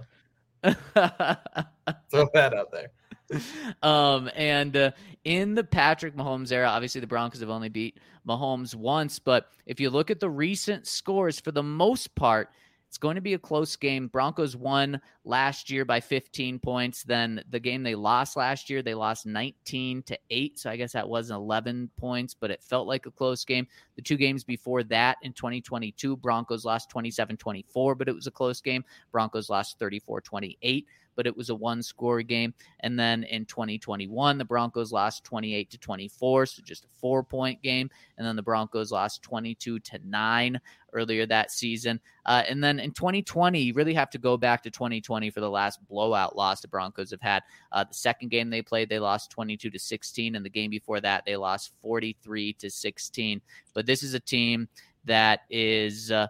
Speaker 4: throw that out there.
Speaker 2: um, and uh, in the Patrick Mahomes era, obviously the Broncos have only beat Mahomes once, but if you look at the recent scores, for the most part, it's going to be a close game. Broncos won last year by fifteen points. Then the game they lost last year, they lost nineteen to eight. So I guess that was eleven points, but it felt like a close game. The two games before that in twenty twenty-two, Broncos lost twenty-seven twenty-four, but it was a close game. Broncos lost thirty-four twenty-eight, but it was a one-score game. And then in twenty twenty-one, the Broncos lost twenty-eight to twenty-four, so just a four-point game. And then the Broncos lost twenty-two to nine earlier that season. Uh, and then in twenty twenty, you really have to go back to twenty twenty for the last blowout loss the Broncos have had. Uh, the second game they played, they lost twenty-two to sixteen, and the game before that, they lost forty-three to sixteen. But this is a team that is uh,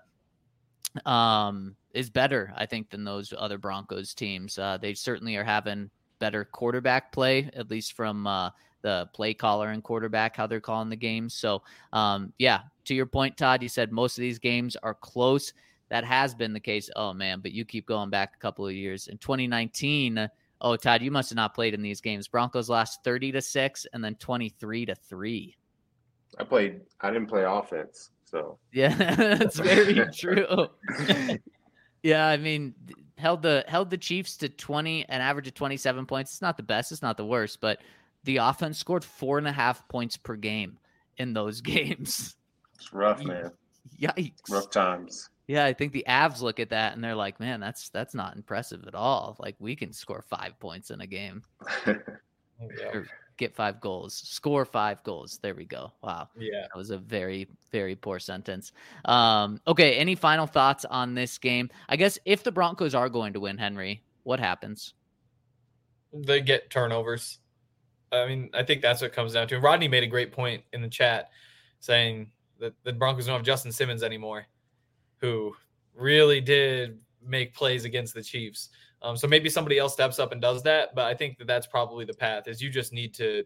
Speaker 2: um, is better, I think, than those other Broncos teams. Uh, they certainly are having better quarterback play, at least from uh, the play caller and quarterback, how they're calling the games. So, um, yeah, to your point, Todd, you said most of these games are close. That has been the case. Oh, man, but you keep going back a couple of years. In twenty nineteen, oh, Todd, you must have not played in these games. Broncos lost thirty to six and then twenty-three to three.
Speaker 3: I played. I didn't play offense, so
Speaker 2: Yeah, that's very true. Yeah, I mean, held the held the Chiefs to twenty, an average of twenty-seven points. It's not the best, it's not the worst, but the offense scored four and a half points per game in those games.
Speaker 3: it's rough, man.
Speaker 2: Yikes!
Speaker 3: Rough times.
Speaker 2: Yeah, I think the Avs look at that and they're like, "Man, that's that's not impressive at all. Like, we can score five points in a game,
Speaker 4: Yeah.
Speaker 2: or get five goals, score five goals." There we go. Wow.
Speaker 4: Yeah.
Speaker 2: That was a very, very poor sentence. Um, okay, any final thoughts on this game? I guess if the Broncos are going to win, Henry, what happens?
Speaker 4: They get turnovers. I mean, I think that's what it comes down to. Rodney made a great point in the chat saying that the Broncos don't have Justin Simmons anymore, who really did make plays against the Chiefs. Um, so maybe somebody else steps up and does that, but I think that that's probably the path. Is you just need to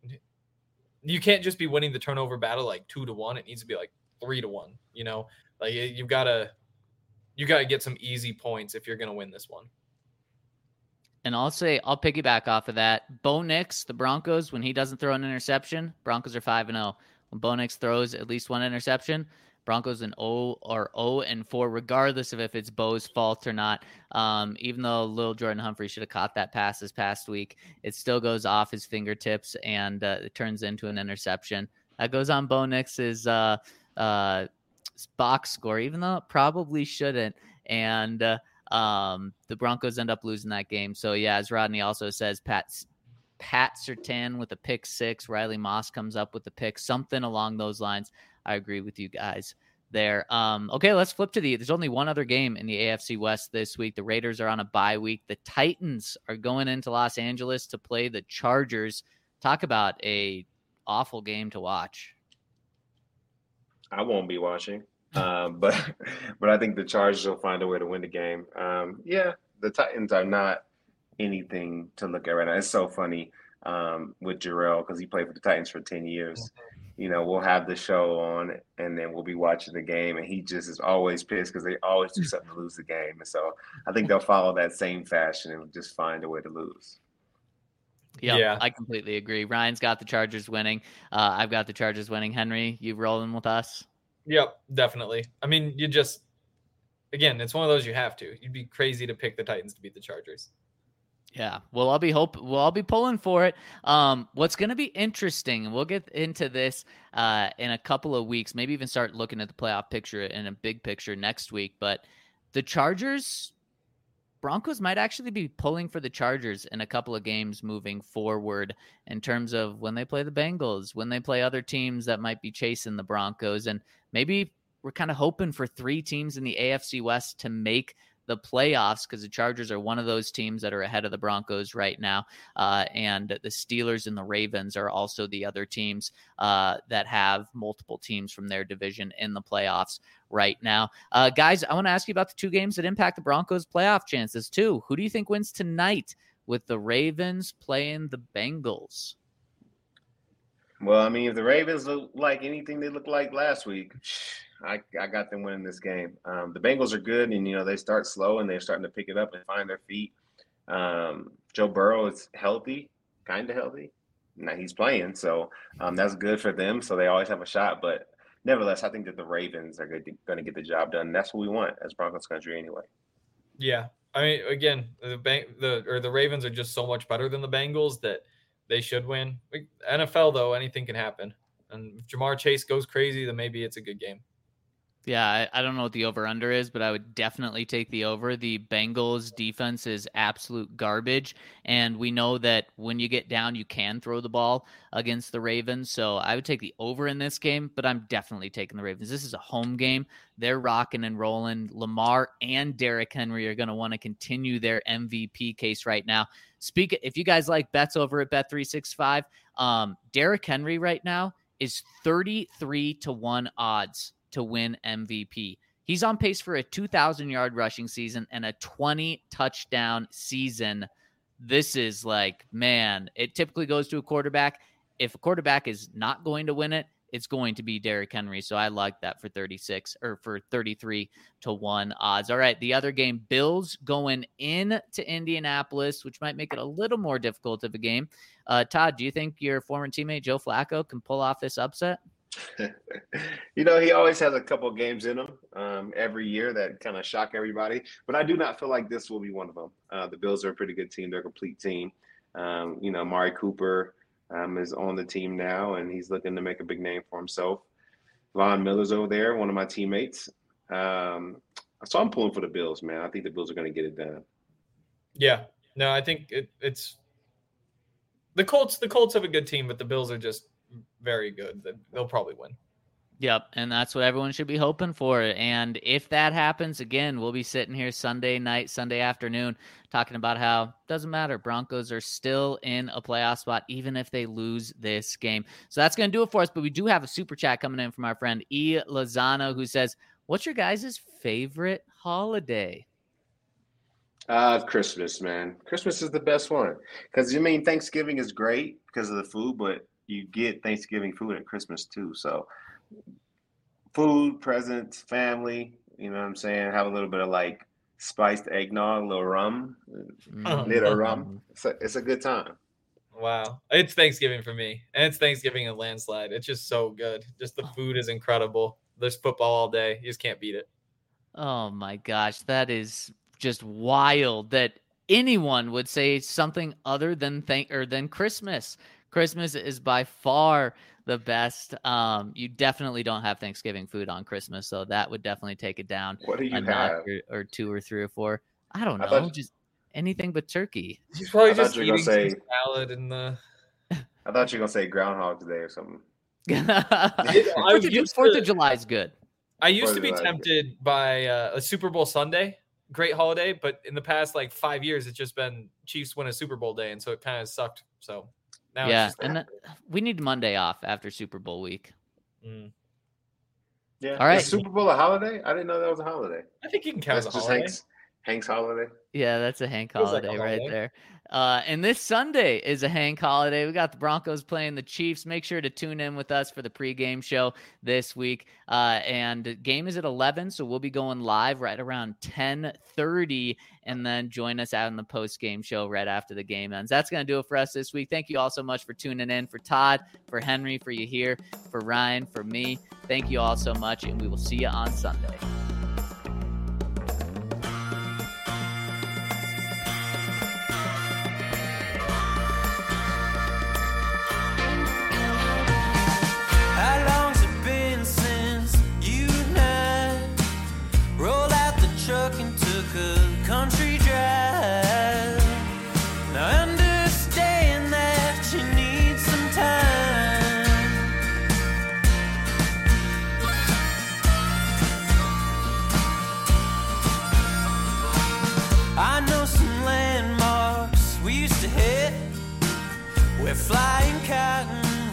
Speaker 4: – you can't just be winning the turnover battle like two to one. It needs to be like three to one, you know? Like, you've got to you got to get some easy points if you're going to win this one.
Speaker 2: And I'll say, I'll piggyback off of that. Bo Nix, the Broncos, when he doesn't throw an interception, Broncos are five and oh. When Bo Nix throws at least one interception, Broncos an O or O and four, regardless of if it's Bo's fault or not. Um, even though little Jordan Humphrey should have caught that pass this past week, it still goes off his fingertips and uh, it turns into an interception. That goes on Bo Nix's uh, uh, box score, even though it probably shouldn't. And uh, um, the Broncos end up losing that game. So, yeah, as Rodney also says, Pat, Pat Surtain with a pick six, Riley Moss comes up with the pick, something along those lines. I agree with you guys there. Um, okay, let's flip to the, there's only one other game in the A F C West this week. The Raiders are on a bye week. The Titans are going into Los Angeles to play the Chargers. Talk about a awful game to watch.
Speaker 3: I won't be watching, um, but but I think the Chargers will find a way to win the game. Um, yeah, the Titans are not anything to look at right now. It's so funny um, with Jarrell because he played for the Titans for ten years. You know, we'll have the show on and then we'll be watching the game and he just is always pissed because they always do something to lose the game. And so I think they'll follow that same fashion and just find a way to lose.
Speaker 2: Yep,
Speaker 4: Yeah,
Speaker 2: I completely agree. Ryan's got the Chargers winning. Uh, I've got the Chargers winning. Henry, you rolling with us?
Speaker 4: Yep, definitely. I mean, you just, again, it's one of those you have to. You'd be crazy to pick the Titans to beat the Chargers.
Speaker 2: Yeah, well, I'll be hope. Well, I'll be pulling for it. Um, what's going to be interesting, and we'll get into this uh, in a couple of weeks. Maybe even start looking at the playoff picture in a big picture next week. But the Chargers, Broncos might actually be pulling for the Chargers in a couple of games moving forward in terms of when they play the Bengals, when they play other teams that might be chasing the Broncos, and maybe we're kind of hoping for three teams in the A F C West to make the playoffs because the Chargers are one of those teams that are ahead of the Broncos right now. Uh, and the Steelers and the Ravens are also the other teams uh, that have multiple teams from their division in the playoffs right now. Uh, guys, I want to ask you about the two games that impact the Broncos playoff chances too. Who do you think wins tonight with the Ravens playing the Bengals?
Speaker 3: Well, I mean, if the Ravens look like anything they looked like last week, I, I got them winning this game. Um, the Bengals are good, and, you know, they start slow, and they're starting to pick it up and find their feet. Um, Joe Burrow is healthy, kind of healthy. Now he's playing, so um, that's good for them. So they always have a shot. But nevertheless, I think that the Ravens are going to get the job done. That's what we want as Broncos country anyway.
Speaker 4: Yeah. I mean, again, the bank, the or the Ravens are just so much better than the Bengals that they should win. N F L, though, anything can happen. And if Jamar Chase goes crazy, then maybe it's a good game.
Speaker 2: Yeah, I, I don't know what the over-under is, but I would definitely take the over. The Bengals defense is absolute garbage, and we know that when you get down, you can throw the ball against the Ravens. So I would take the over in this game, but I'm definitely taking the Ravens. This is a home game. They're rocking and rolling. Lamar and Derrick Henry are going to want to continue their M V P case right now. Speak if you guys like bets over at Bet three sixty-five, um, Derrick Henry right now is thirty-three to one odds to win M V P. He's on pace for a two thousand yard rushing season and a twenty touchdown season. This is like, man, it typically goes to a quarterback. If a quarterback is not going to win it, it's going to be Derrick Henry. So I like that for thirty-six or for thirty-three to one odds. All right. The other game, Bills going in to Indianapolis, which might make it a little more difficult of a game. Uh, Todd, do you think your former teammate Joe Flacco can pull off this upset?
Speaker 3: You know, he always has a couple of games in him um, every year that kind of shock everybody. But I do not feel like this will be one of them. Uh, the Bills are a pretty good team. They're a complete team. Um, you know, Amari Cooper um, is on the team now, and he's looking to make a big name for himself. Von Miller's over there, one of my teammates. Um, so I'm pulling for the Bills, man. I think the Bills are going to get it done.
Speaker 4: Yeah. No, I think it, it's the Colts. The Colts have a good team, but the Bills are just very good. They'll probably win.
Speaker 2: Yep, and that's what everyone should be hoping for. And if that happens, again, we'll be sitting here Sunday night, Sunday afternoon, talking about how it doesn't matter. Broncos are still in a playoff spot, even if they lose this game. So that's going to do it for us. But we do have a super chat coming in from our friend E. Lozano, who says, what's your guys' favorite holiday?
Speaker 3: Uh, Christmas, man. Christmas is the best one. Because, I mean, Thanksgiving is great because of the food, but you get Thanksgiving food at Christmas too. So food, presents, family, You know what I'm saying? Have a little bit of like spiced eggnog, a little rum,
Speaker 2: Mm.
Speaker 3: little rum. It's a, it's a good time.
Speaker 4: Wow. It's Thanksgiving for me. And it's Thanksgiving and landslide. It's just so good. Just the food is incredible. There's football all day. You just can't beat it.
Speaker 2: Oh my gosh, that is just wild that anyone would say something other than thank or than Christmas. Christmas is by far the best. Um, you definitely don't have Thanksgiving food on Christmas, so that would definitely take it down
Speaker 3: What do you
Speaker 2: a notch
Speaker 3: have?
Speaker 2: or, or two or three or four. I don't know,
Speaker 3: I thought-
Speaker 2: just anything but turkey.
Speaker 4: He's probably
Speaker 3: I thought
Speaker 4: just
Speaker 3: you were
Speaker 4: eating
Speaker 3: gonna
Speaker 4: some
Speaker 3: say-
Speaker 4: salad and the.
Speaker 3: I thought you were gonna say Groundhog's Day or something.
Speaker 2: Fourth
Speaker 4: I
Speaker 2: of, Ju-
Speaker 4: used
Speaker 2: Fourth
Speaker 4: to-
Speaker 2: of July is good.
Speaker 4: I used to
Speaker 3: Probably
Speaker 4: be
Speaker 3: like it.
Speaker 4: tempted by uh, a Super Bowl Sunday, great holiday, but in the past like five years, it's just been Chiefs win a Super Bowl day, and so it kind of sucked. So now,
Speaker 2: Yeah,
Speaker 4: it's just,
Speaker 2: and that, we need Monday off after Super Bowl week.
Speaker 4: Mm.
Speaker 3: Yeah.
Speaker 2: All right.
Speaker 3: Is Super Bowl a holiday? I didn't know that was a holiday.
Speaker 4: I think you can count
Speaker 3: That's
Speaker 4: as a
Speaker 3: just
Speaker 4: holiday.
Speaker 3: Hank's Hank's holiday.
Speaker 2: Yeah, that's a Hank
Speaker 4: Feels like a
Speaker 2: holiday right
Speaker 4: holiday.
Speaker 2: there. Uh, and this Sunday is a Hank holiday. We got the Broncos playing the Chiefs. Make sure to tune in with us for the pregame show this week. Uh, and the game is at eleven, so we'll be going live right around ten thirty, and then join us out in the postgame show right after the game ends. That's going to do it for us this week. Thank you all so much for tuning in. For Todd, for Henry, for you here, for Ryan, for me. Thank you all so much, and we will see you on Sunday.
Speaker 1: How long's it been since you and I rolled out the truck and took a country drive? Now I understand that you need some time. I know some landmarks we used to hit where flying cotton